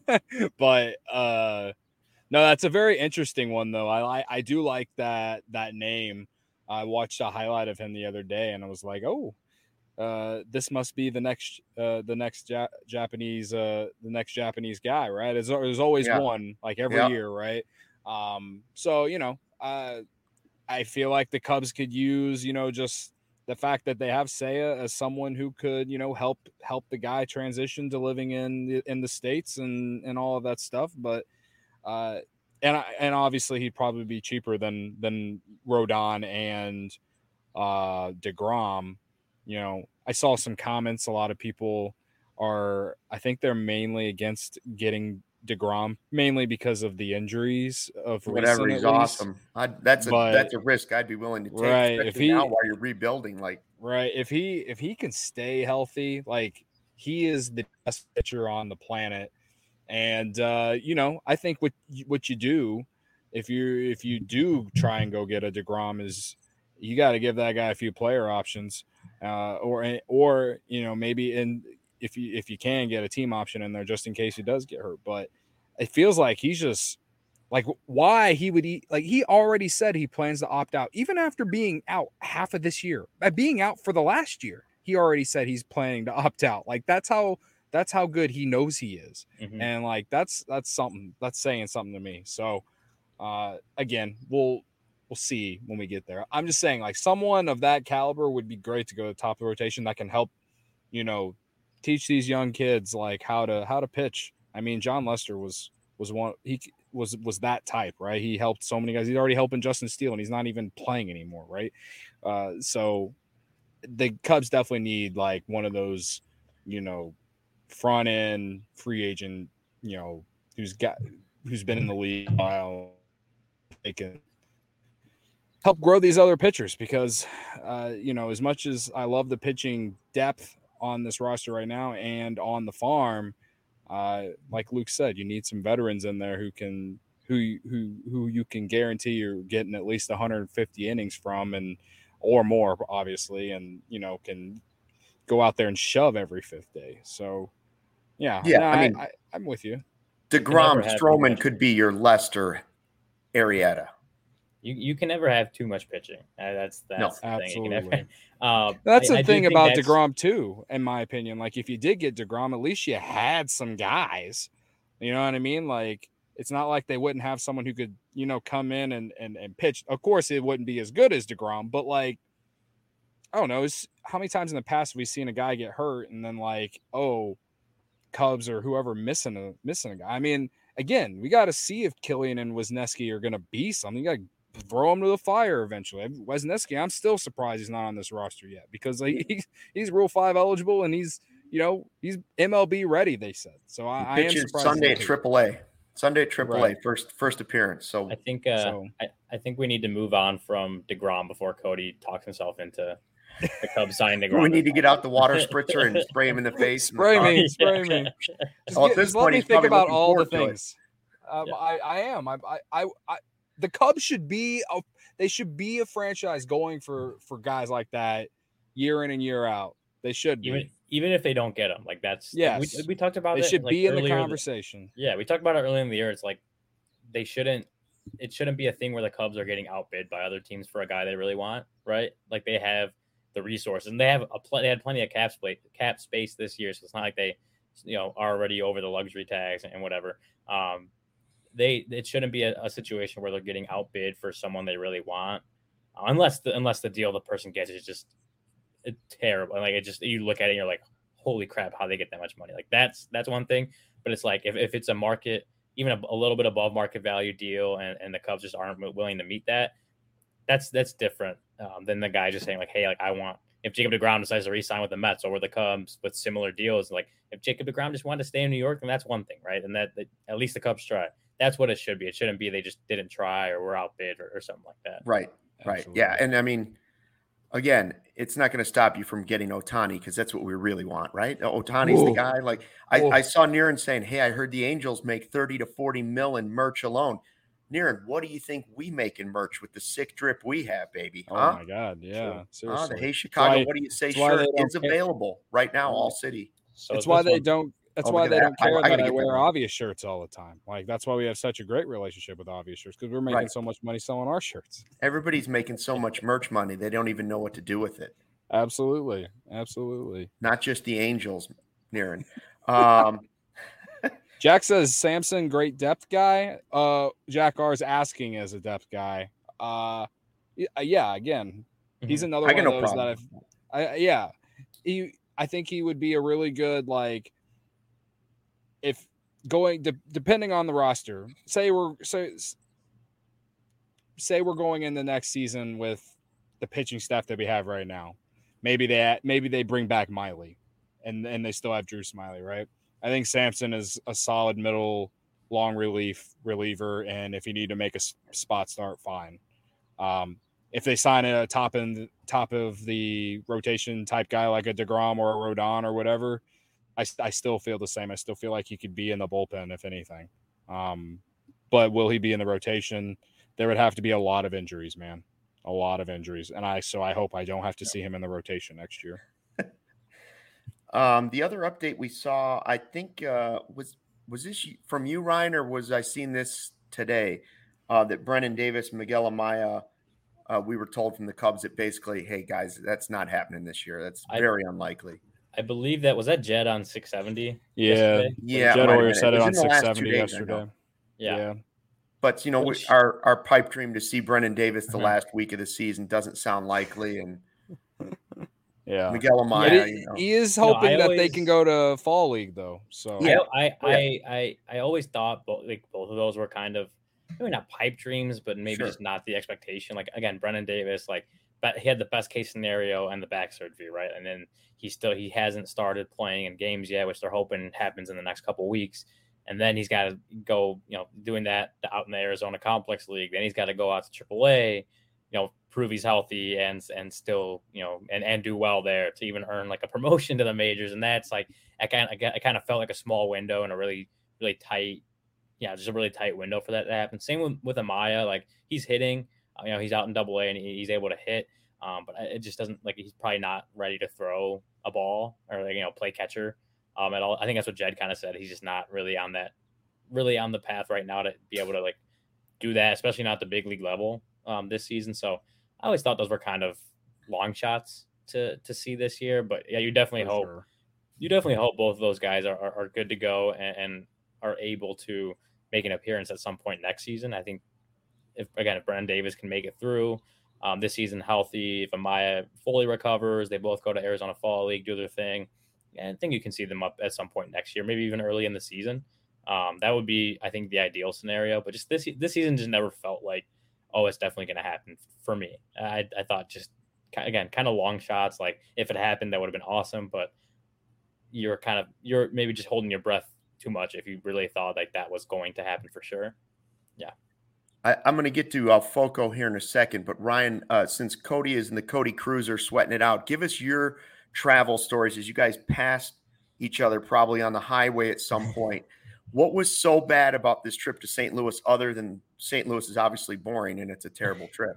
but uh, no, that's a very interesting one though. I, I I do like that that name. I watched a highlight of him the other day, and I was like, oh, uh, this must be the next uh, the next ja- Japanese uh, the next Japanese guy, right? There's, there's always
yeah.
one, like every
yeah.
year, right? Um, so you know, uh, I feel like the Cubs could use, you know, just the fact that they have Seiya as someone who could, you know, help help the guy transition to living in the, in the States and and all of that stuff. But uh, and and obviously he'd probably be cheaper than than Rodon and uh, DeGrom. You know, I saw some comments. A lot of people are, I think they're mainly against getting DeGrom, mainly because of the injuries of
whatever.
Recent,
he's awesome. I'd, that's a
but,
that's a risk I'd be willing to take,
right,
especially
if he,
now while you're rebuilding. Like,
right, if he if he can stay healthy, like he is the best pitcher on the planet. And uh, you know, I think what what you do if you if you do try and go get a DeGrom is you got to give that guy a few player options, uh, or or you know maybe in. If you if you can get a team option in there just in case he does get hurt. But it feels like he's just like why he would eat like he already said he plans to opt out even after being out half of this year. By being out for the last year, he already said he's planning to opt out. Like that's how that's how good he knows he is. Mm-hmm. And like that's that's something that's saying something to me. So uh again, we'll we'll see when we get there. I'm just saying like someone of that caliber would be great to go to the top of the rotation that can help, you know, teach these young kids like how to how to pitch. I mean, John Lester was was one he was was that type, right? He helped so many guys. He's already helping Justin Steele, and he's not even playing anymore, right? Uh, so the Cubs definitely need like one of those, you know, front end free agent, you know, who's got who's been in the league a while. They can help grow these other pitchers because, uh, you know, as much as I love the pitching depth on this roster right now and on the farm, uh, like Luke said, you need some veterans in there who can who who who you can guarantee you're getting at least one hundred fifty innings from and or more, obviously, and you know can go out there and shove every fifth day. So, yeah,
yeah,
no,
I mean,
I, I, I'm with you.
DeGrom, Stroman could be your Lester, Arrieta.
You you can never have too much pitching. Uh, that's that's
no,
the
absolutely.
thing. You can never, uh,
that's
I,
the
I
thing about DeGrom too, in my opinion. Like if you did get DeGrom, at least you had some guys. You know what I mean? Like it's not like they wouldn't have someone who could, you know, come in and and, and pitch. Of course, it wouldn't be as good as DeGrom, but like I don't know. How many times in the past have we seen a guy get hurt and then like, oh, Cubs or whoever missing a missing a guy? I mean, again, we got to see if Killian and Wisniewski are going to be something. You got to throw him to the fire eventually. Wisniewski, I'm still surprised he's not on this roster yet because like, he's he's Rule Five eligible and he's you know he's M L B ready. They said so. I, I am surprised.
Sunday at Triple A. Sunday at Triple A first first appearance. So
I think uh,
so,
I, I think we need to move on from DeGrom before Cody talks himself into the Cubs signing DeGrom.
We need to get out the water spritzer and spray him in the face.
Spray me, spray me. Just,
well,
get, just let me think about all the things. Um, yeah. I, I am. I, I, I, the Cubs should be. A, they should be a franchise going for for guys like that year in and year out. They should be.
Even, even if they don't get them, like that's.
Yeah.
We, we talked about
they
it.
should
like
be in the conversation.
The, yeah, we talked about it earlier in the year. It's like they shouldn't. It shouldn't be a thing where the Cubs are getting outbid by other teams for a guy they really want, right? Like they have the resources and they have a pl- they had plenty of cap space cap space this year, so it's not like they, you know, are already over the luxury tags and whatever. Um, they it shouldn't be a, a situation where they're getting outbid for someone they really want, uh, unless the unless the deal the person gets is just it's terrible. Like it just you look at it and you're like, holy crap, how they get that much money? Like that's that's one thing, but it's like if, if it's a market, even a, a little bit above market value deal, and, and the Cubs just aren't willing to meet that, that's that's different um, than the guy just saying like, hey, like I want. If Jacob DeGrom decides to re-sign with the Mets or with the Cubs with similar deals, like if Jacob DeGrom just wanted to stay in New York, then that's one thing, right? And that, that at least the Cubs try. That's what it should be. It shouldn't be they just didn't try or were outbid or, or something like that.
Right, right, Absolutely. Yeah. And I mean, again, it's not going to stop you from getting Ohtani because that's what we really want, right? Ohtani's the guy. Like I, I saw Niren saying, "Hey, I heard the Angels make thirty to forty mil in merch alone." Niren, what do you think we make in merch with the sick drip we have, baby? Huh?
Oh my God, yeah, seriously.
Huh? The Hey Chicago,
why,
what do you say? Shirt is available right now, all city.
So that's why they one. don't. That's oh, why they that. don't care I, that I, I wear that Obvious shirts all the time. Like that's why we have such a great relationship with Obvious shirts because we're making right. so much money selling our shirts.
Everybody's making so much merch money they don't even know what to do with it.
Absolutely, absolutely.
Not just the Angels, Niren. Um,
Jack says Samson, great depth guy. Uh, Jack R is asking as a depth guy. Uh, yeah, again, mm-hmm. he's another
I
one
no
of those
problem.
that I've. I, yeah, he. I think he would be a really good like. If going de- depending on the roster, say we're say say we're going in the next season with the pitching staff that we have right now, maybe they maybe they bring back Miley, and and they still have Drew Smiley, right? I think Samson is a solid middle long relief reliever, and if you need to make a spot start, fine. Um, if they sign a top in top of the rotation type guy like a DeGrom or a Rodon or whatever, I, I still feel the same. I still feel like he could be in the bullpen if anything. Um, but will he be in the rotation? There would have to be a lot of injuries, man. A lot of injuries, and I so I hope I don't have to see him in the rotation next year.
Um, the other update we saw, I think, uh, was was this from you, Ryan, or was I seen this today? Uh, that Brennan Davis, Miguel Amaya, uh, we were told from the Cubs that basically, hey guys, that's not happening this year. That's very I, unlikely.
I believe that was that Jed on six seventy.
Yeah,
yesterday?
yeah.
Jed Hoyer said it, it on six seventy yesterday.
Yeah. yeah.
But you know, Which, we, our our pipe dream to see Brennan Davis the uh-huh. last week of the season doesn't sound likely, and.
Yeah,
Miguel Amaya.
Yeah,
you know.
He is hoping no, that always, they can go to fall league though. So
yeah, I I, I, I, I always thought both like both of those were kind of maybe not pipe dreams, but maybe sure. just not the expectation. Like again, Brennan Davis, like but he had the best case scenario and the back surgery, right? And then he still he hasn't started playing in games yet, which they're hoping happens in the next couple of weeks. And then he's got to go, you know, doing that out in the Arizona Complex League. Then he's got to go out to triple A. you know, prove he's healthy and and still, you know, and, and do well there to even earn like a promotion to the majors. And that's like, I kind of, I kind of felt like a small window and a really, really tight, yeah, just a really tight window for that to happen. Same with, with Amaya, like he's hitting, uh, you know, he's out in double A and he, he's able to hit. Um, but it just doesn't like, he's probably not ready to throw a ball or like, you know, play catcher um, at all. I think that's what Jed kind of said. He's just not really on that, really on the path right now to be able to like do that, especially not at the big league level um, this season. So I always thought those were kind of long shots to to see this year. But yeah, you definitely For hope sure. you definitely hope both of those guys are, are, are good to go and, and are able to make an appearance at some point next season. I think if again if Brennen Davis can make it through um, this season healthy, if Amaya fully recovers, they both go to Arizona Fall League, do their thing. And I think you can see them up at some point next year, maybe even early in the season. Um, that would be, I think, the ideal scenario. But just this this season just never felt like, oh, it's definitely going to happen for me. I, I thought just, again, kind of long shots. Like, if it happened, that would have been awesome. But you're kind of, you're maybe just holding your breath too much if you really thought like that was going to happen for sure. Yeah.
I, I'm going to get to uh, Foco here in a second. But, Ryan, uh, since Cody is in the Cody Cruiser sweating it out, give us your travel stories as you guys passed each other probably on the highway at some point. What was so bad about this trip to Saint Louis other than Saint Louis is obviously boring and it's a terrible trip?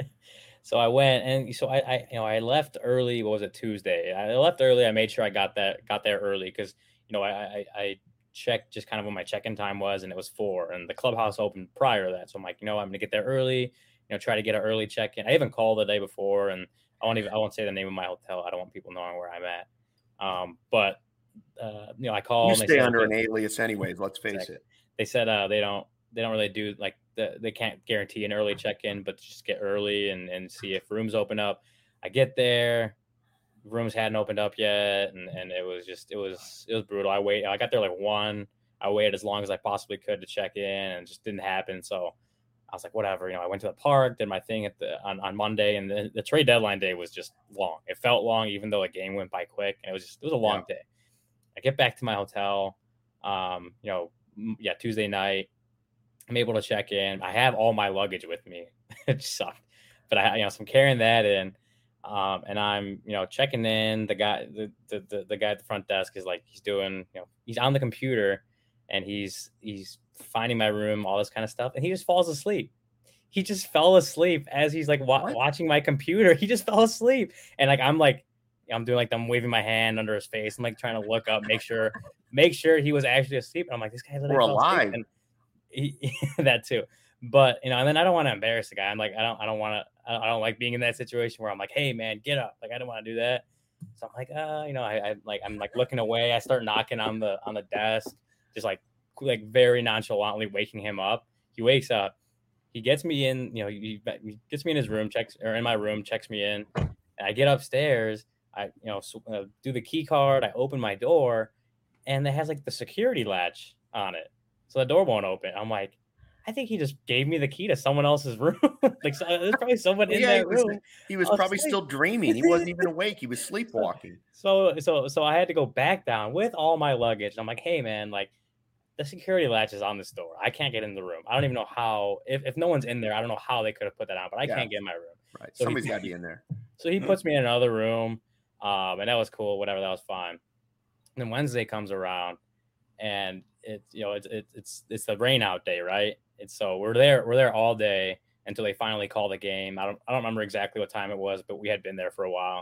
So I went and so I, I, you know, I left early. What was it? Tuesday. I left early. I made sure I got that, got there early. Cause you know, I, I, I checked just kind of when my check-in time was and it was four and the clubhouse opened prior to that. So I'm like, you know, I'm going to get there early, you know, try to get an early check-in. I even called the day before and I won't even, I won't say the name of my hotel. I don't want people knowing where I'm at. Um, but Uh, you know, I called.
You stay under an alias, anyways. Let's face
exactly.
it.
They said uh, they don't they don't really do like the, they can't guarantee an early check-in, but just get early and, and see if rooms open up. I get there, rooms hadn't opened up yet, and, and it was just it was it was brutal. I wait. I got there like one. I waited as long as I possibly could to check in, and it just didn't happen. So I was like, whatever. You know, I went to the park, did my thing at the on, on Monday, and the, the trade deadline day was just long. It felt long, even though the game went by quick, and it was just it was a long yeah. day. I get back to my hotel, um, you know, yeah, Tuesday night. I'm able to check in. I have all my luggage with me. It sucked, but I, you know, so I'm carrying that in, um, and I'm, you know, checking in. The guy, the, the the the guy at the front desk is like, he's doing, you know, he's on the computer, and he's he's finding my room, all this kind of stuff, and he just falls asleep. He just fell asleep as he's like wa- watching my computer. He just fell asleep, and like I'm like. I'm doing like I'm waving my hand under his face. I'm like trying to look up, make sure, make sure he was actually asleep. And I'm like, this guy's
we're alive.
And he, that too. But you know, and then I don't want to embarrass the guy. I'm like, I don't, I don't want to, I don't like being in that situation where I'm like, hey man, get up. Like I don't want to do that. So I'm like, uh, you know, I, I like, I'm like looking away. I start knocking on the on the desk, just like like very nonchalantly waking him up. He wakes up. He gets me in. You know, he, he gets me in his room, checks or in my room, checks me in. And I get upstairs. I, you know, so, uh, do the key card. I open my door, and it has like the security latch on it, so the door won't open. I'm like, I think he just gave me the key to someone else's room. Like, so, there's probably someone in
yeah,
that
he was,
room.
He was probably still dreaming. He wasn't even awake. He was sleepwalking.
So, so, so I had to go back down with all my luggage. I'm like, hey man, like the security latch is on this door. I can't get in the room. I don't even know how. If, if no one's in there, I don't know how they could have put that on. But I yeah. can't get in my room.
Right, so somebody's got to be in there.
So he puts me in another room. Um, and that was cool, whatever, that was fine. And then Wednesday comes around and it's, you know, it's, it's, it's, it's the rain out day, right? It's so we're there, we're there all day until they finally call the game. I don't, I don't remember exactly what time it was, but we had been there for a while.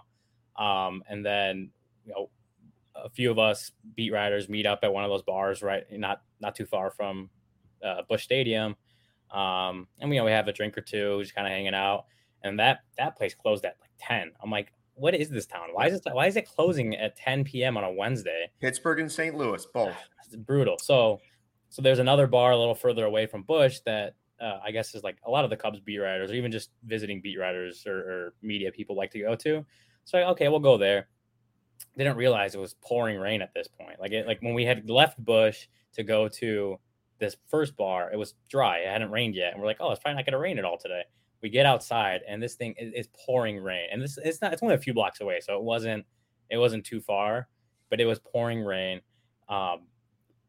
Um, and then, you know, a few of us beat writers meet up at one of those bars, right? Not, not too far from uh, Busch Stadium. Um, and we, you know, we have a drink or two, just kind of hanging out. And that, that place closed at like ten. I'm like, what is this town? Why is it why is it closing at ten p.m. on a Wednesday?
Pittsburgh and Saint Louis, both.
It's brutal. So so there's another bar a little further away from Busch that uh, I guess is like a lot of the Cubs beat writers or even just visiting beat writers or, or media people like to go to. So okay, we'll go there. Didn't realize it was pouring rain at this point. Like it, like when we had left Busch to go to this first bar, it was dry. It hadn't rained yet. And we're like, oh, it's probably not going to rain at all today. We get outside and this thing is, is pouring rain, and this it's not it's only a few blocks away, so it wasn't it wasn't too far, but it was pouring rain. Um,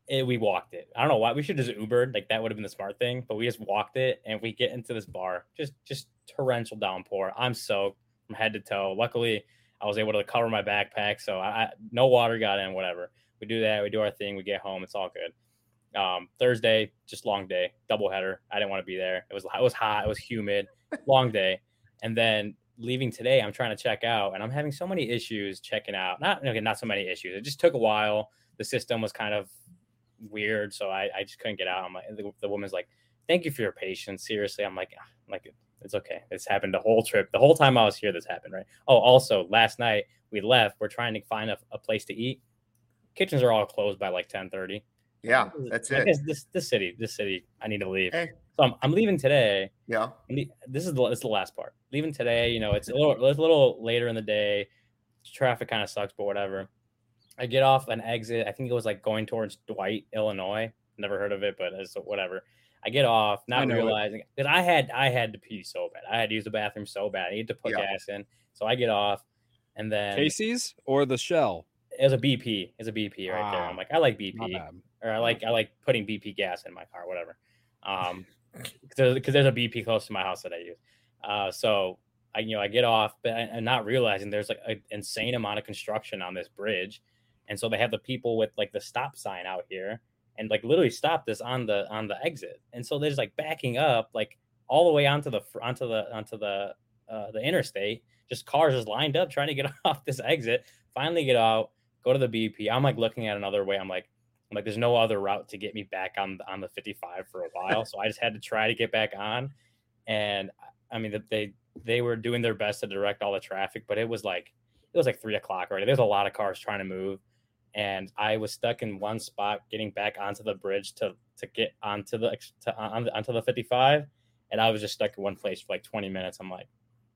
it, we walked it. I don't know why. We should just Ubered. Like, that would have been the smart thing. But we just walked it, and we get into this bar. Just just torrential downpour. I'm soaked from head to toe. Luckily, I was able to cover my backpack, so I, I no water got in, whatever. We do that. We do our thing. We get home. It's all good. Um, Thursday, just long day, doubleheader. I didn't want to be there. It was it was hot. It was humid. Long day. And then leaving today, I'm trying to check out, and I'm having so many issues checking out. Not okay, not so many issues. It just took a while. The system was kind of weird, so I, I just couldn't get out. I'm like, the, the woman's like, "Thank you for your patience." Seriously, I'm like, I'm like, it's okay. This happened the whole trip. The whole time I was here, this happened, right? Oh, also, last night we left. We're trying to find a, a place to eat. Kitchens are all closed by like ten thirty.
Yeah, that's
I
it.
guess this this city, this city, I need to leave.
Hey.
So I'm, I'm leaving today.
Yeah.
This is the this is the last part. Leaving today, you know, it's a little it's a little later in the day. Traffic kind of sucks, but whatever. I get off an exit. I think it was like going towards Dwight, Illinois. Never heard of it, but it's whatever. I get off, not realizing because I had I had to pee so bad. I had to use the bathroom so bad. I needed to put yeah. gas in. So I get off, and then
Casey's or the Shell.
It was a B P. It's a B P right ah, there. I'm like, I like B P, or I like I like putting B P gas in my car, whatever. Um, because there's a B P close to my house that I use. Uh, so I you know I get off, but and not realizing there's like an insane amount of construction on this bridge, and so they have the people with like the stop sign out here, and like literally stopped this on the on the exit, and so they're just like backing up like all the way onto the onto the onto the uh, the interstate. Just cars just lined up trying to get off this exit. Finally get out. Go to the B P. I'm like looking at another way. I'm like, I'm like, there's no other route to get me back on on the fifty-five for a while. So I just had to try to get back on. And I mean, they they were doing their best to direct all the traffic, but it was like it was like three o'clock already. There's a lot of cars trying to move, and I was stuck in one spot getting back onto the bridge to to get onto the to, on, onto the fifty-five, and I was just stuck in one place for like twenty minutes. I'm like,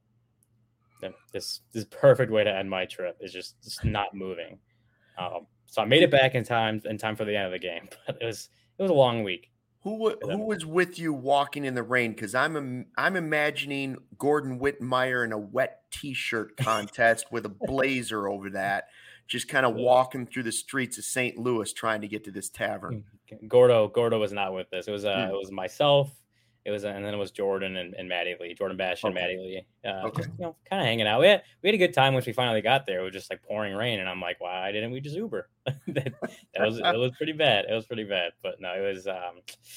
this this perfect way to end my trip is just, just not moving. Um, so I made it back in time in time for the end of the game, but it was it was a long week.
Who who was with you walking in the rain? Because I'm I'm imagining Gordon Wittenmeyer in a wet T-shirt contest with a blazer over that, just kind of walking through the streets of Saint Louis trying to get to this tavern.
Gordo Gordo was not with us. It was uh, hmm. it was myself. It was, and then it was Jordan and, and Maddie Lee, Jordan Bash and okay. Maddie Lee. Uh, okay. Just, you know, kind of hanging out. We had, we had a good time once we finally got there. It was just like pouring rain, and I'm like, why didn't we just Uber? that, that was it was pretty bad. It was pretty bad, but no, it was um,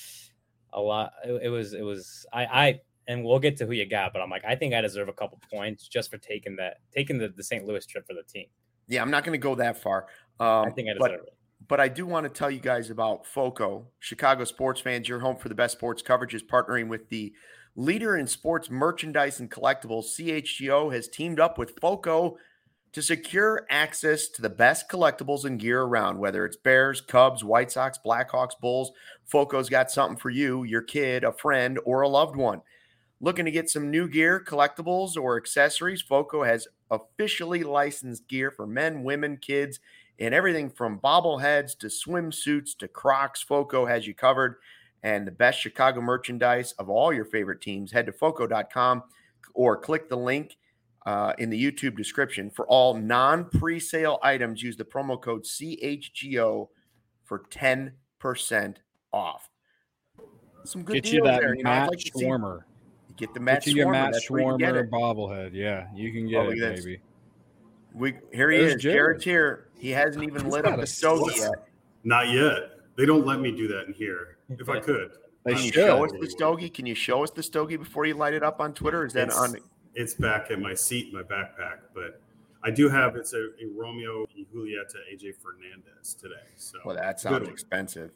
a lot. It, it was it was I I and we'll get to who you got, but I'm like, I think I deserve a couple points just for taking that taking the, the Saint Louis trip for the team.
Yeah, I'm not going to go that far. Um,
I think I deserve
but-
it.
But I do want to tell you guys about FOCO. Chicago sports fans, your home for the best sports coverage is partnering with the leader in sports merchandise and collectibles. C H G O has teamed up with FOCO to secure access to the best collectibles and gear around, whether it's Bears, Cubs, White Sox, Blackhawks, Bulls. FOCO's got something for you, your kid, a friend, or a loved one. Looking to get some new gear, collectibles, or accessories? FOCO has officially licensed gear for men, women, kids, and everything from bobbleheads to swimsuits to Crocs. FOCO has you covered. And the best Chicago merchandise of all your favorite teams. Head to foco dot com or click the link uh, in the YouTube description. For all non-presale items, use the promo code C H G O for ten percent off. Some good
get
deals
you that
there. You know,
Matt
like
Schwarmer.
Get the Matt
get you
Schwarmer.
Matt
That's
Schwarmer bobblehead. Yeah, you can get
oh,
it, baby.
We here he
There's
is.
Jared.
Jared's here. He hasn't even
He's
lit up a stogie yet.
Not yet. They don't let me do that in here. If I could,
they
can you
should.
show us the stogie? Can you show us the stogie before you light it up on Twitter? Is that
it's,
on?
It's back at my seat in my backpack, but I do have it's a, a Romeo y Julieta A J Fernandez today. So
well, that sounds expensive.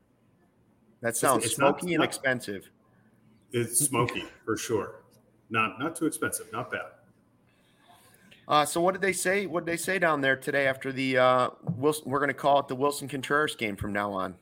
That sounds it's, it's smoky not, and not, expensive.
It's smoky for sure. Not not too expensive. Not bad.
Uh, so what did they say? What did they say down there today after the uh, Wilson? We're going to call it the Wilson Contreras game from now on.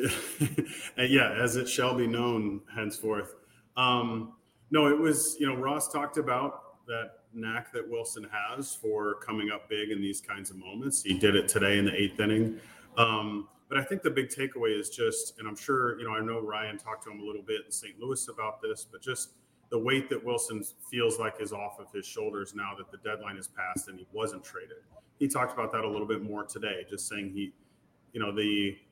Yeah, as it shall be known henceforth. Um, no, it was, you know, Ross talked about that knack that Wilson has for coming up big in these kinds of moments. He did it today in the eighth inning. Um, but I think the big takeaway is just, and I'm sure, you know, I know Ryan talked to him a little bit in Saint Louis about this, but just the weight that Wilson feels like is off of his shoulders now that the deadline is passed and he wasn't traded. He talked about that a little bit more today, just saying he, you know, the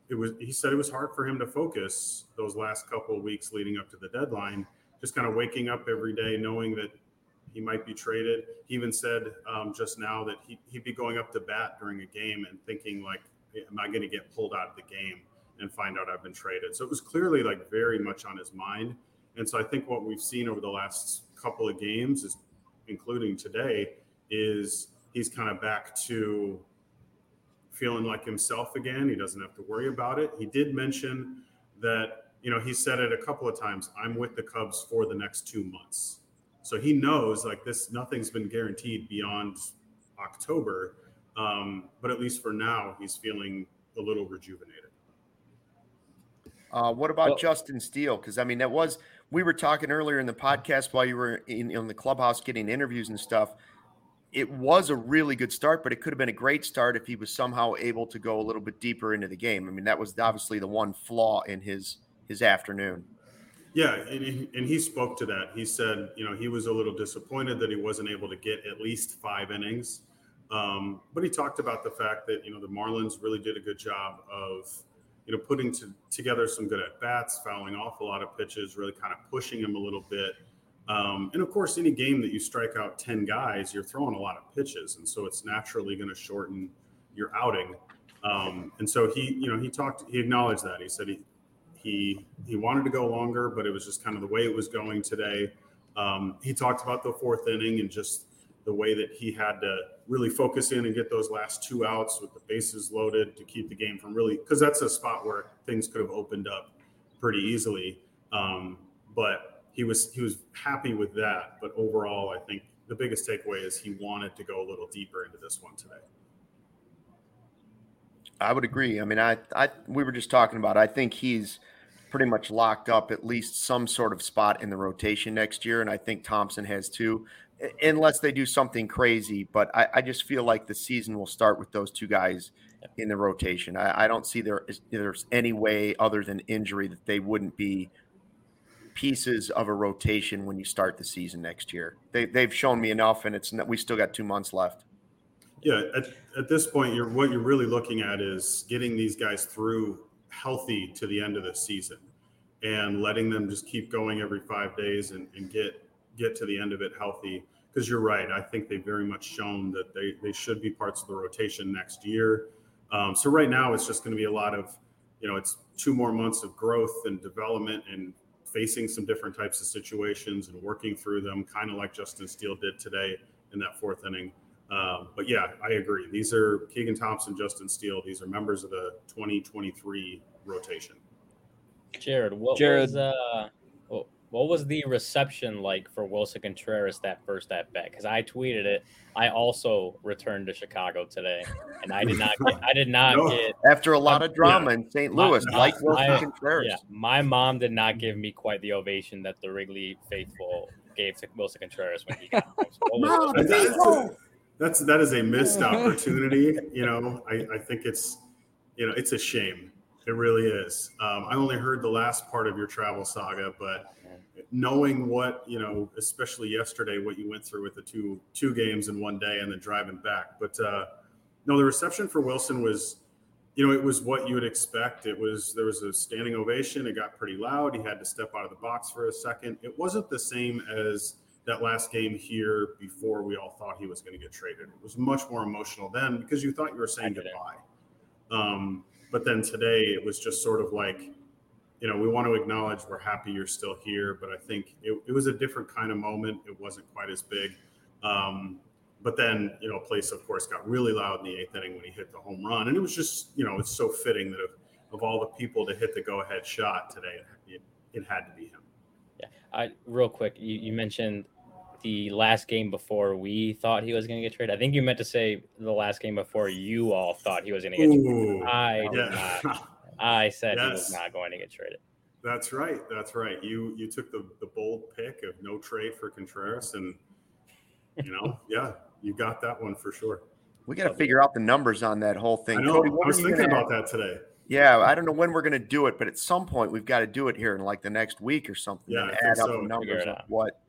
it was, he said it was hard for him to focus those last couple of weeks leading up to the deadline, just kind of waking up every day knowing that he might be traded. He even said um, just now that he, he'd be going up to bat during a game and thinking like, am I going to get pulled out of the game and find out I've been traded? So it was clearly like very much on his mind. And so I think what we've seen over the last couple of games, is, including today, is he's kind of back to feeling like himself again. He doesn't have to worry about it. He did mention that, you know, he said it a couple of times, I'm with the Cubs for the next two months. So he knows like this, nothing's been guaranteed beyond October. Um, but at least for now, he's feeling a little rejuvenated.
Uh, what about
well,
Justin Steele? Because, I mean, that was, we were talking earlier in the podcast while you were in, in the clubhouse getting interviews and stuff. It was a really good start, but it could have been a great start if he was somehow able to go a little bit deeper into the game. I mean, that was obviously the one flaw in his his afternoon.
Yeah, and he, and he spoke to that. He said, you know, he was a little disappointed that he wasn't able to get at least five innings. Um, but he talked about the fact that, you know, the Marlins really did a good job of, you know, putting to, together some good at-bats, fouling off a lot of pitches, really kind of pushing him a little bit. Um, and of course, any game that you strike out ten guys, you're throwing a lot of pitches. And so it's naturally going to shorten your outing. Um, and so he, you know, he talked, he acknowledged that. He said he, he, he wanted to go longer, but it was just kind of the way it was going today. Um, he talked about the fourth inning and just the way that he had to really focus in and get those last two outs with the bases loaded to keep the game from really, because that's a spot where things could have opened up pretty easily. Um, but He was he was happy with that, but overall, I think the biggest takeaway is he wanted to go a little deeper into this one today.
I would agree. I mean, I, I we were just talking about, I think he's pretty much locked up at least some sort of spot in the rotation next year, and I think Thompson has too, unless they do something crazy. But I, I just feel like the season will start with those two guys in the rotation. I, I don't see there is, there's any way other than injury that they wouldn't be pieces of a rotation when you start the season next year. They, they've shown me enough, and it's we still got two months left.
Yeah, at, at this point, you're what you're really looking at is getting these guys through healthy to the end of the season and letting them just keep going every five days and, and get get to the end of it healthy. Because you're right, I think they've very much shown that they, they should be parts of the rotation next year. Um, so right now, it's just going to be a lot of, you know, it's two more months of growth and development and facing some different types of situations and working through them, kind of like Justin Steele did today in that fourth inning. Um, but yeah, I agree. These are Keegan Thompson, Justin Steele. These are members of the twenty twenty-three rotation.
Jared, what
Jared.
was uh, what was the reception like for Willson Contreras that first at bat? Because I tweeted it. I also returned to Chicago today, and I did not. Get, I did not
No.
get
After a lot of drama
yeah.
in Saint Louis,
My-
like Willson
my-
Contreras.
Yeah, my mom did not give me quite the ovation that the Wrigley faithful gave to Willson Contreras when he got home. So what was-
Mom,
That's,
Hey,
that's, that's that is a missed opportunity. You know, I, I think it's, you know, it's a shame. It really is. Um, I only heard the last part of your travel saga, but knowing what, you know, especially yesterday, what you went through with the two two games in one day and then driving back. But uh, no, the reception for Willson was, you know, it was what you would expect. It was, there was a standing ovation. It got pretty loud. He had to step out of the box for a second. It wasn't the same as that last game here before we all thought he was going to get traded. It was much more emotional then because you thought you were saying goodbye. Um, but then today it was just sort of like, you know, we want to acknowledge we're happy you're still here, but I think it, it was a different kind of moment. It wasn't quite as big. Um, but then, you know, place, of course, got really loud in the eighth inning when he hit the home run. And it was just, you know, it's so fitting that of, of all the people to hit the go-ahead shot today, it, it had to be him.
Yeah, I real quick, you, you mentioned the last game before we thought he was going to get traded. I think you meant to say the last game before you all thought he was going to get
Ooh,
traded. I did
yeah.
not. I said
Yes.
he was not going to get traded.
That's right. That's right. You you took the, the bold pick of no trade for Contreras, and you know, yeah, you got that one for sure.
We got to figure out the numbers on that whole thing.
I know.
Cody,
I
what
was
are you
thinking
gonna
about that today.
Yeah, I don't know when we're going to do it, but at some point we've got to do it here in like the next week or something.
Yeah,
and
I
add
think
up
so.
the numbers
Figure it
of
out.
what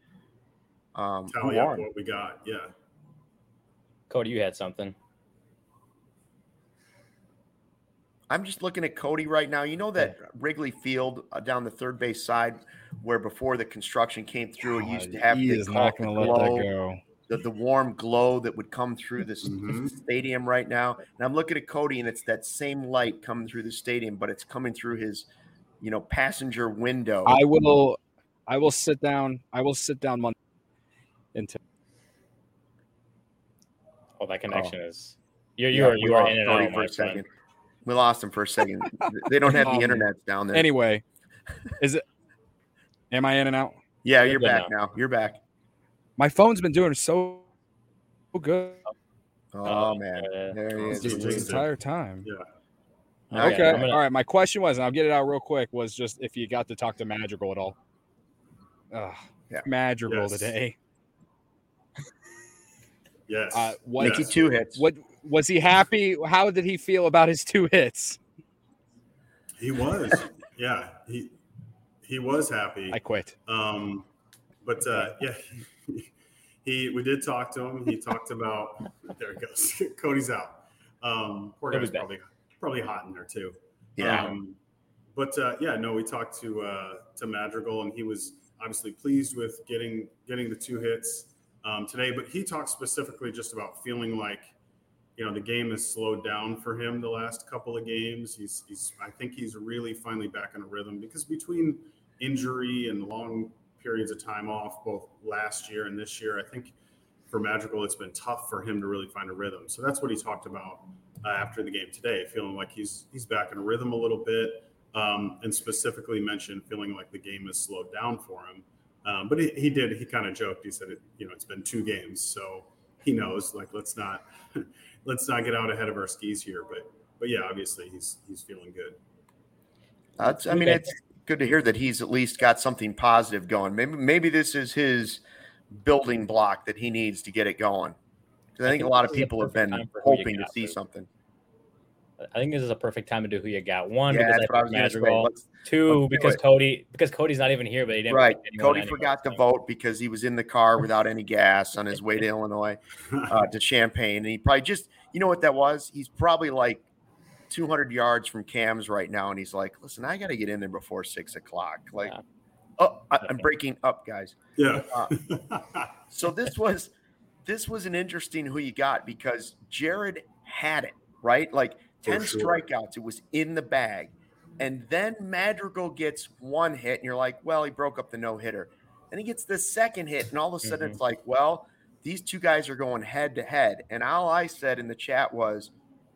um, who
Tally up
won.
what we got. Yeah.
Cody, you had something.
I'm just looking at Cody right now. You know that Wrigley Field uh, down the third base side, where before the construction came through, it used to have
he
the,
is not going to let that go.
The, the warm glow that would come through this
Mm-hmm.
stadium right now. And I'm looking at Cody, and it's that same light coming through the stadium, but it's coming through his, you know, passenger window.
I will, I will sit down. I will sit down Monday until.
Oh, that connection
Oh.
is. You're you
Yeah,
are you
we
are
lost
in and
Cody
out,
for
my
a second.
friend.
We lost him for a second. They don't have the
Um,
internet down there.
Anyway, is it? Am I in and out?
Yeah,
You're
you're
good
back
now.
now. You're back.
My phone's been doing so good
Oh,
Oh,
man,
yeah.
there he is.
Just
the
Just
entire time.
Yeah.
Now
Okay.
you're
I'm gonna-
All right. My question was, and I'll get it out real quick, was just if you got to talk to Madrigal at all. Ugh,
Yeah.
Madrigal
Yes.
today.
Yes.
Uh, what,
Nicky
Yes.
two hits.
what was he happy? How did he feel about his two hits?
He was. Yeah. He he was happy.
I quit.
Um, but uh, yeah, he, he we did talk to him. He talked about there he goes. Cody's out. Um, poor
He'll be
guy's
back.
probably probably hot in there too.
Yeah.
Um, but uh, yeah, no, we talked to uh, to Madrigal, and he was obviously pleased with getting getting the two hits um, today. But he talked specifically just about feeling like, you know, the game has slowed down for him the last couple of games. He's he's I think he's really finally back in a rhythm, because between injury and long periods of time off, both last year and this year, I think for Madrigal, it's been tough for him to really find a rhythm. So that's what he talked about uh, after the game today, feeling like he's he's back in a rhythm a little bit, um, and specifically mentioned feeling like the game has slowed down for him. Um, but he, he did, he kind of joked. He said, it, you know, it's been two games, so he knows, like, let's not let's not get out ahead of our skis here. But but yeah, obviously he's he's feeling good.
That's, I mean, it's good to hear that he's at least got something positive going. Maybe maybe this is his building block that he needs to get it going. Because I,
I
think a
think
lot
this
of
is a
people have
perfect
been
time for who you
hoping to
got,
see
but-
something.
I think this is a perfect time to do who you got. One,
Yeah,
because
that's
I
what I
picked
was going to say.
Madrigal.
Let's-
Two,
let's do
because
it.
Cody because Cody's not even here, but he didn't
Right.
pick anyone
Cody
anyway,
forgot to
so.
vote because he was in the car without any gas on his way to Illinois uh, to Champaign. And he probably just, you know what that was? He's probably like two hundred yards from Cam's right now. And he's like, listen, I got to get in there before six o'clock. Like,
Yeah.
oh, I, I'm breaking up, guys.
Yeah.
So this was this was an interesting who you got, because Jared had it, right? Like ten
sure.
strikeouts, it was in the bag. And then Madrigal gets one hit, and you're like, well, he broke up the no-hitter. Then he gets the second hit, and all of a sudden
Mhm.
it's like, well, these two guys are going head to head. And all I said in the chat was,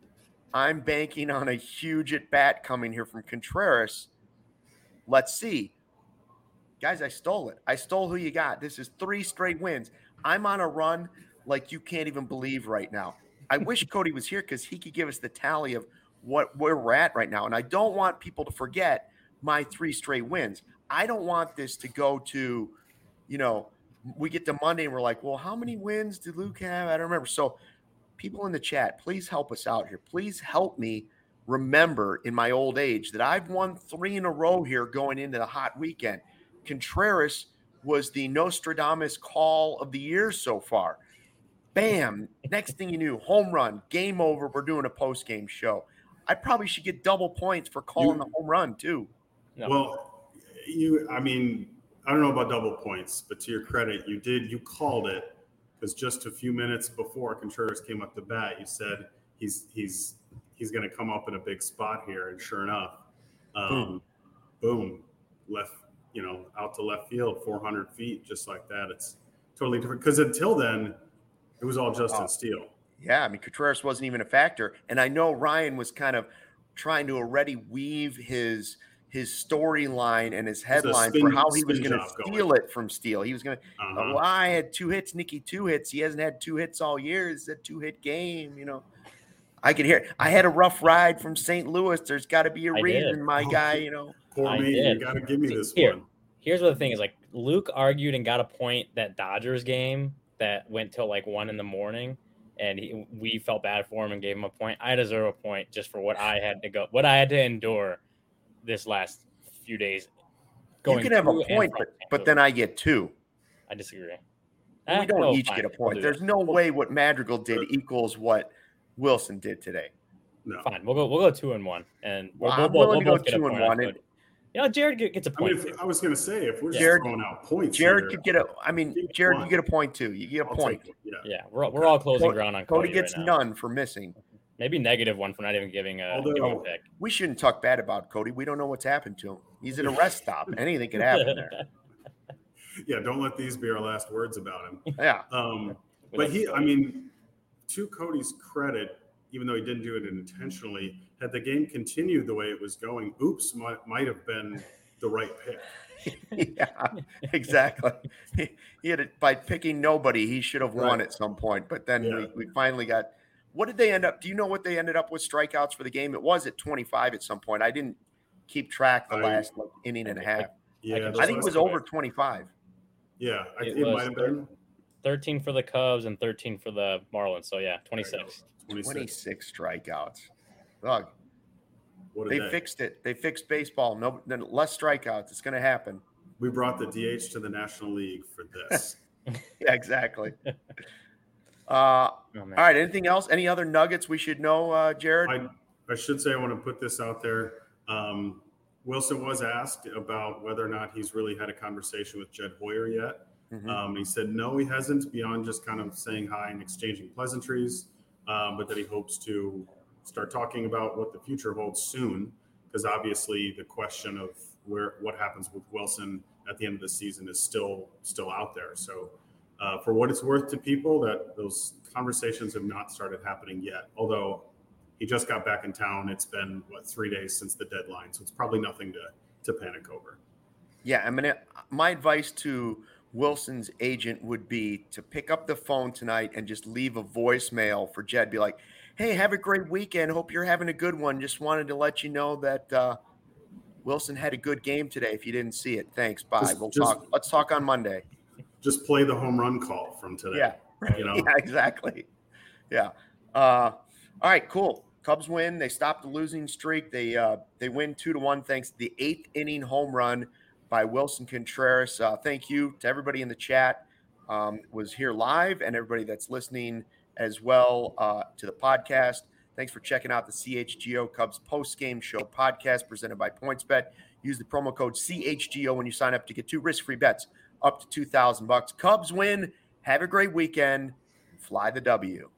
I'm banking on a huge at bat coming here from Contreras. Let's see. Guys, I stole it. I stole who you got. This is three straight wins. I'm on a run like you can't even believe right now. I wish Cody was here because he could give us the tally of what where we're at right now. And I don't want people to forget my three straight wins. I don't want this to go to, you know, we get to Monday and we're like, well, how many wins did Luke have? I don't remember. So people in the chat, please help us out here. Please help me remember in my old age that I've won three in a row here going into the hot weekend. Contreras was the Nostradamus call of the year so far. Bam. Next thing you knew, home run, game over. We're doing a post-game show. I probably should get double points for calling
You-
the home run too.
No.
Well, you, I mean, I don't know about double points, but to your credit, you did, you called it, because just a few minutes before Contreras came up to bat, you said he's, he's, he's going to come up in a big spot here. And sure enough, um, boom, left, you know, out to left field, four hundred feet, just like that. It's totally different. Because until then, it was all Justin
Oh.
Steele.
Yeah, I mean, Contreras wasn't even a factor. And I know Ryan was kind of trying to already weave his his storyline and his headline
spin-
for how he was
spin
going to
job going.
steal it from Steele. He was going to,
Uh-huh.
well, I had two hits, Nicky two hits. He hasn't had two hits all year. It's a two-hit game, you know. I could hear it. I had a rough ride from Saint Louis. There's got to be a
I
reason,
did.
my
Oh.
guy, you know.
Poor
I
me, you
did.
got to give me
See,
this
here.
one.
Here's what the thing is, like, Luke argued and got a point that Dodgers game that went till like one in the morning, and he, we felt bad for him and gave him a point. I deserve a point just for what I had to go, what I had to endure this last few days.
You can have a
to and
point,
from
but,
Saint
but
Louis.
then I get two.
I disagree.
we
Eh,
don't
no,
each
fine.
get a
We'll
point.
do
There's
that.
no way what Madrigal did equals what Wilson did today.
No.
Fine. We'll go. We'll go two and one, and we'll,
Well,
we'll,
I'm
we'll,
willing
we'll
to
both
go
get a
two and
point on
one.
Cody. You know, Jared gets a
I mean,
point.
if, I was going to say, if we're just
Jared-
throwing out points,
Jared
here,
could get a. I mean,
Give me
Jared,
one.
you get a point too. You get a
I'll
point.
take it. Yeah.
yeah, we're we're all closing
Cody-
ground on
Cody
Cody,
gets
right now.
none for missing.
Maybe negative one for not even giving a,
Although-
giving a pick.
We shouldn't talk bad about Cody. We don't know what's happened to him. He's at a rest stop. Anything could happen there.
Yeah. Don't let these be our last words about him.
Yeah.
Um,
We
but
love
he,
Cody.
I mean, to Cody's credit, even though he didn't do it intentionally, had the game continued the way it was going, oops might, might have been the right pick.
Yeah, exactly. He, he had it by picking nobody. He should have won
Right.
at some point. But then
Yeah.
we, we finally got. What did they end up? Do you know what they ended up with strikeouts for the game? It was at twenty-five at some point. I didn't keep track the
I-
last like, inning and a half.
Yeah,
can-
those
I think it
last
was
couple-
over twenty-five.
Yeah, I,
It
it,
was
might have been
thirteen for the Cubs and thirteen for the Marlins. So yeah, twenty-six.
twenty-six.
twenty-six strikeouts. Ugh.
What a
They
day.
fixed it. They fixed baseball. No, then less strikeouts. It's going to happen.
We brought the D H to the National League for this.
Yeah, exactly. Uh,
Oh, man.
all right. Anything else? Any other nuggets we should know, uh, Jared?
I, I should say I want to put this out there. Um, Wilson was asked about whether or not he's really had a conversation with Jed Hoyer yet.
Mhm.
Um, he said no, he hasn't, beyond just kind of saying hi and exchanging pleasantries, um, but that he hopes to start talking about what the future holds soon, because obviously the question of where what happens with Wilson at the end of the season is still still out there. So uh, for what it's worth to people, that those conversations have not started happening yet, although he just got back in town. It's been, what, three days since the deadline, so it's probably nothing to, to panic over.
Yeah, I mean, my advice to Wilson's agent would be to pick up the phone tonight and just leave a voicemail for Jed. Be like, hey, have a great weekend. Hope you're having a good one. Just wanted to let you know that uh, Wilson had a good game today. If you didn't see it, thanks. Bye.
Just-
we'll
just-
talk. Let's talk on Monday.
Just play the home run call from today.
Yeah.
You know?
Yeah, exactly. Yeah. Uh, all right, cool. Cubs win. They stopped the losing streak. They uh, they win two to one thanks to the eighth inning home run by Wilson Contreras. Uh, thank you to everybody in the chat um, was here live and everybody that's listening as well uh, to the podcast. Thanks for checking out the C H G O Cubs post-game show podcast presented by PointsBet. Use the promo code C H G O when you sign up to get two risk-free bets up to two thousand bucks. Cubs win. Have a great weekend. Fly the W.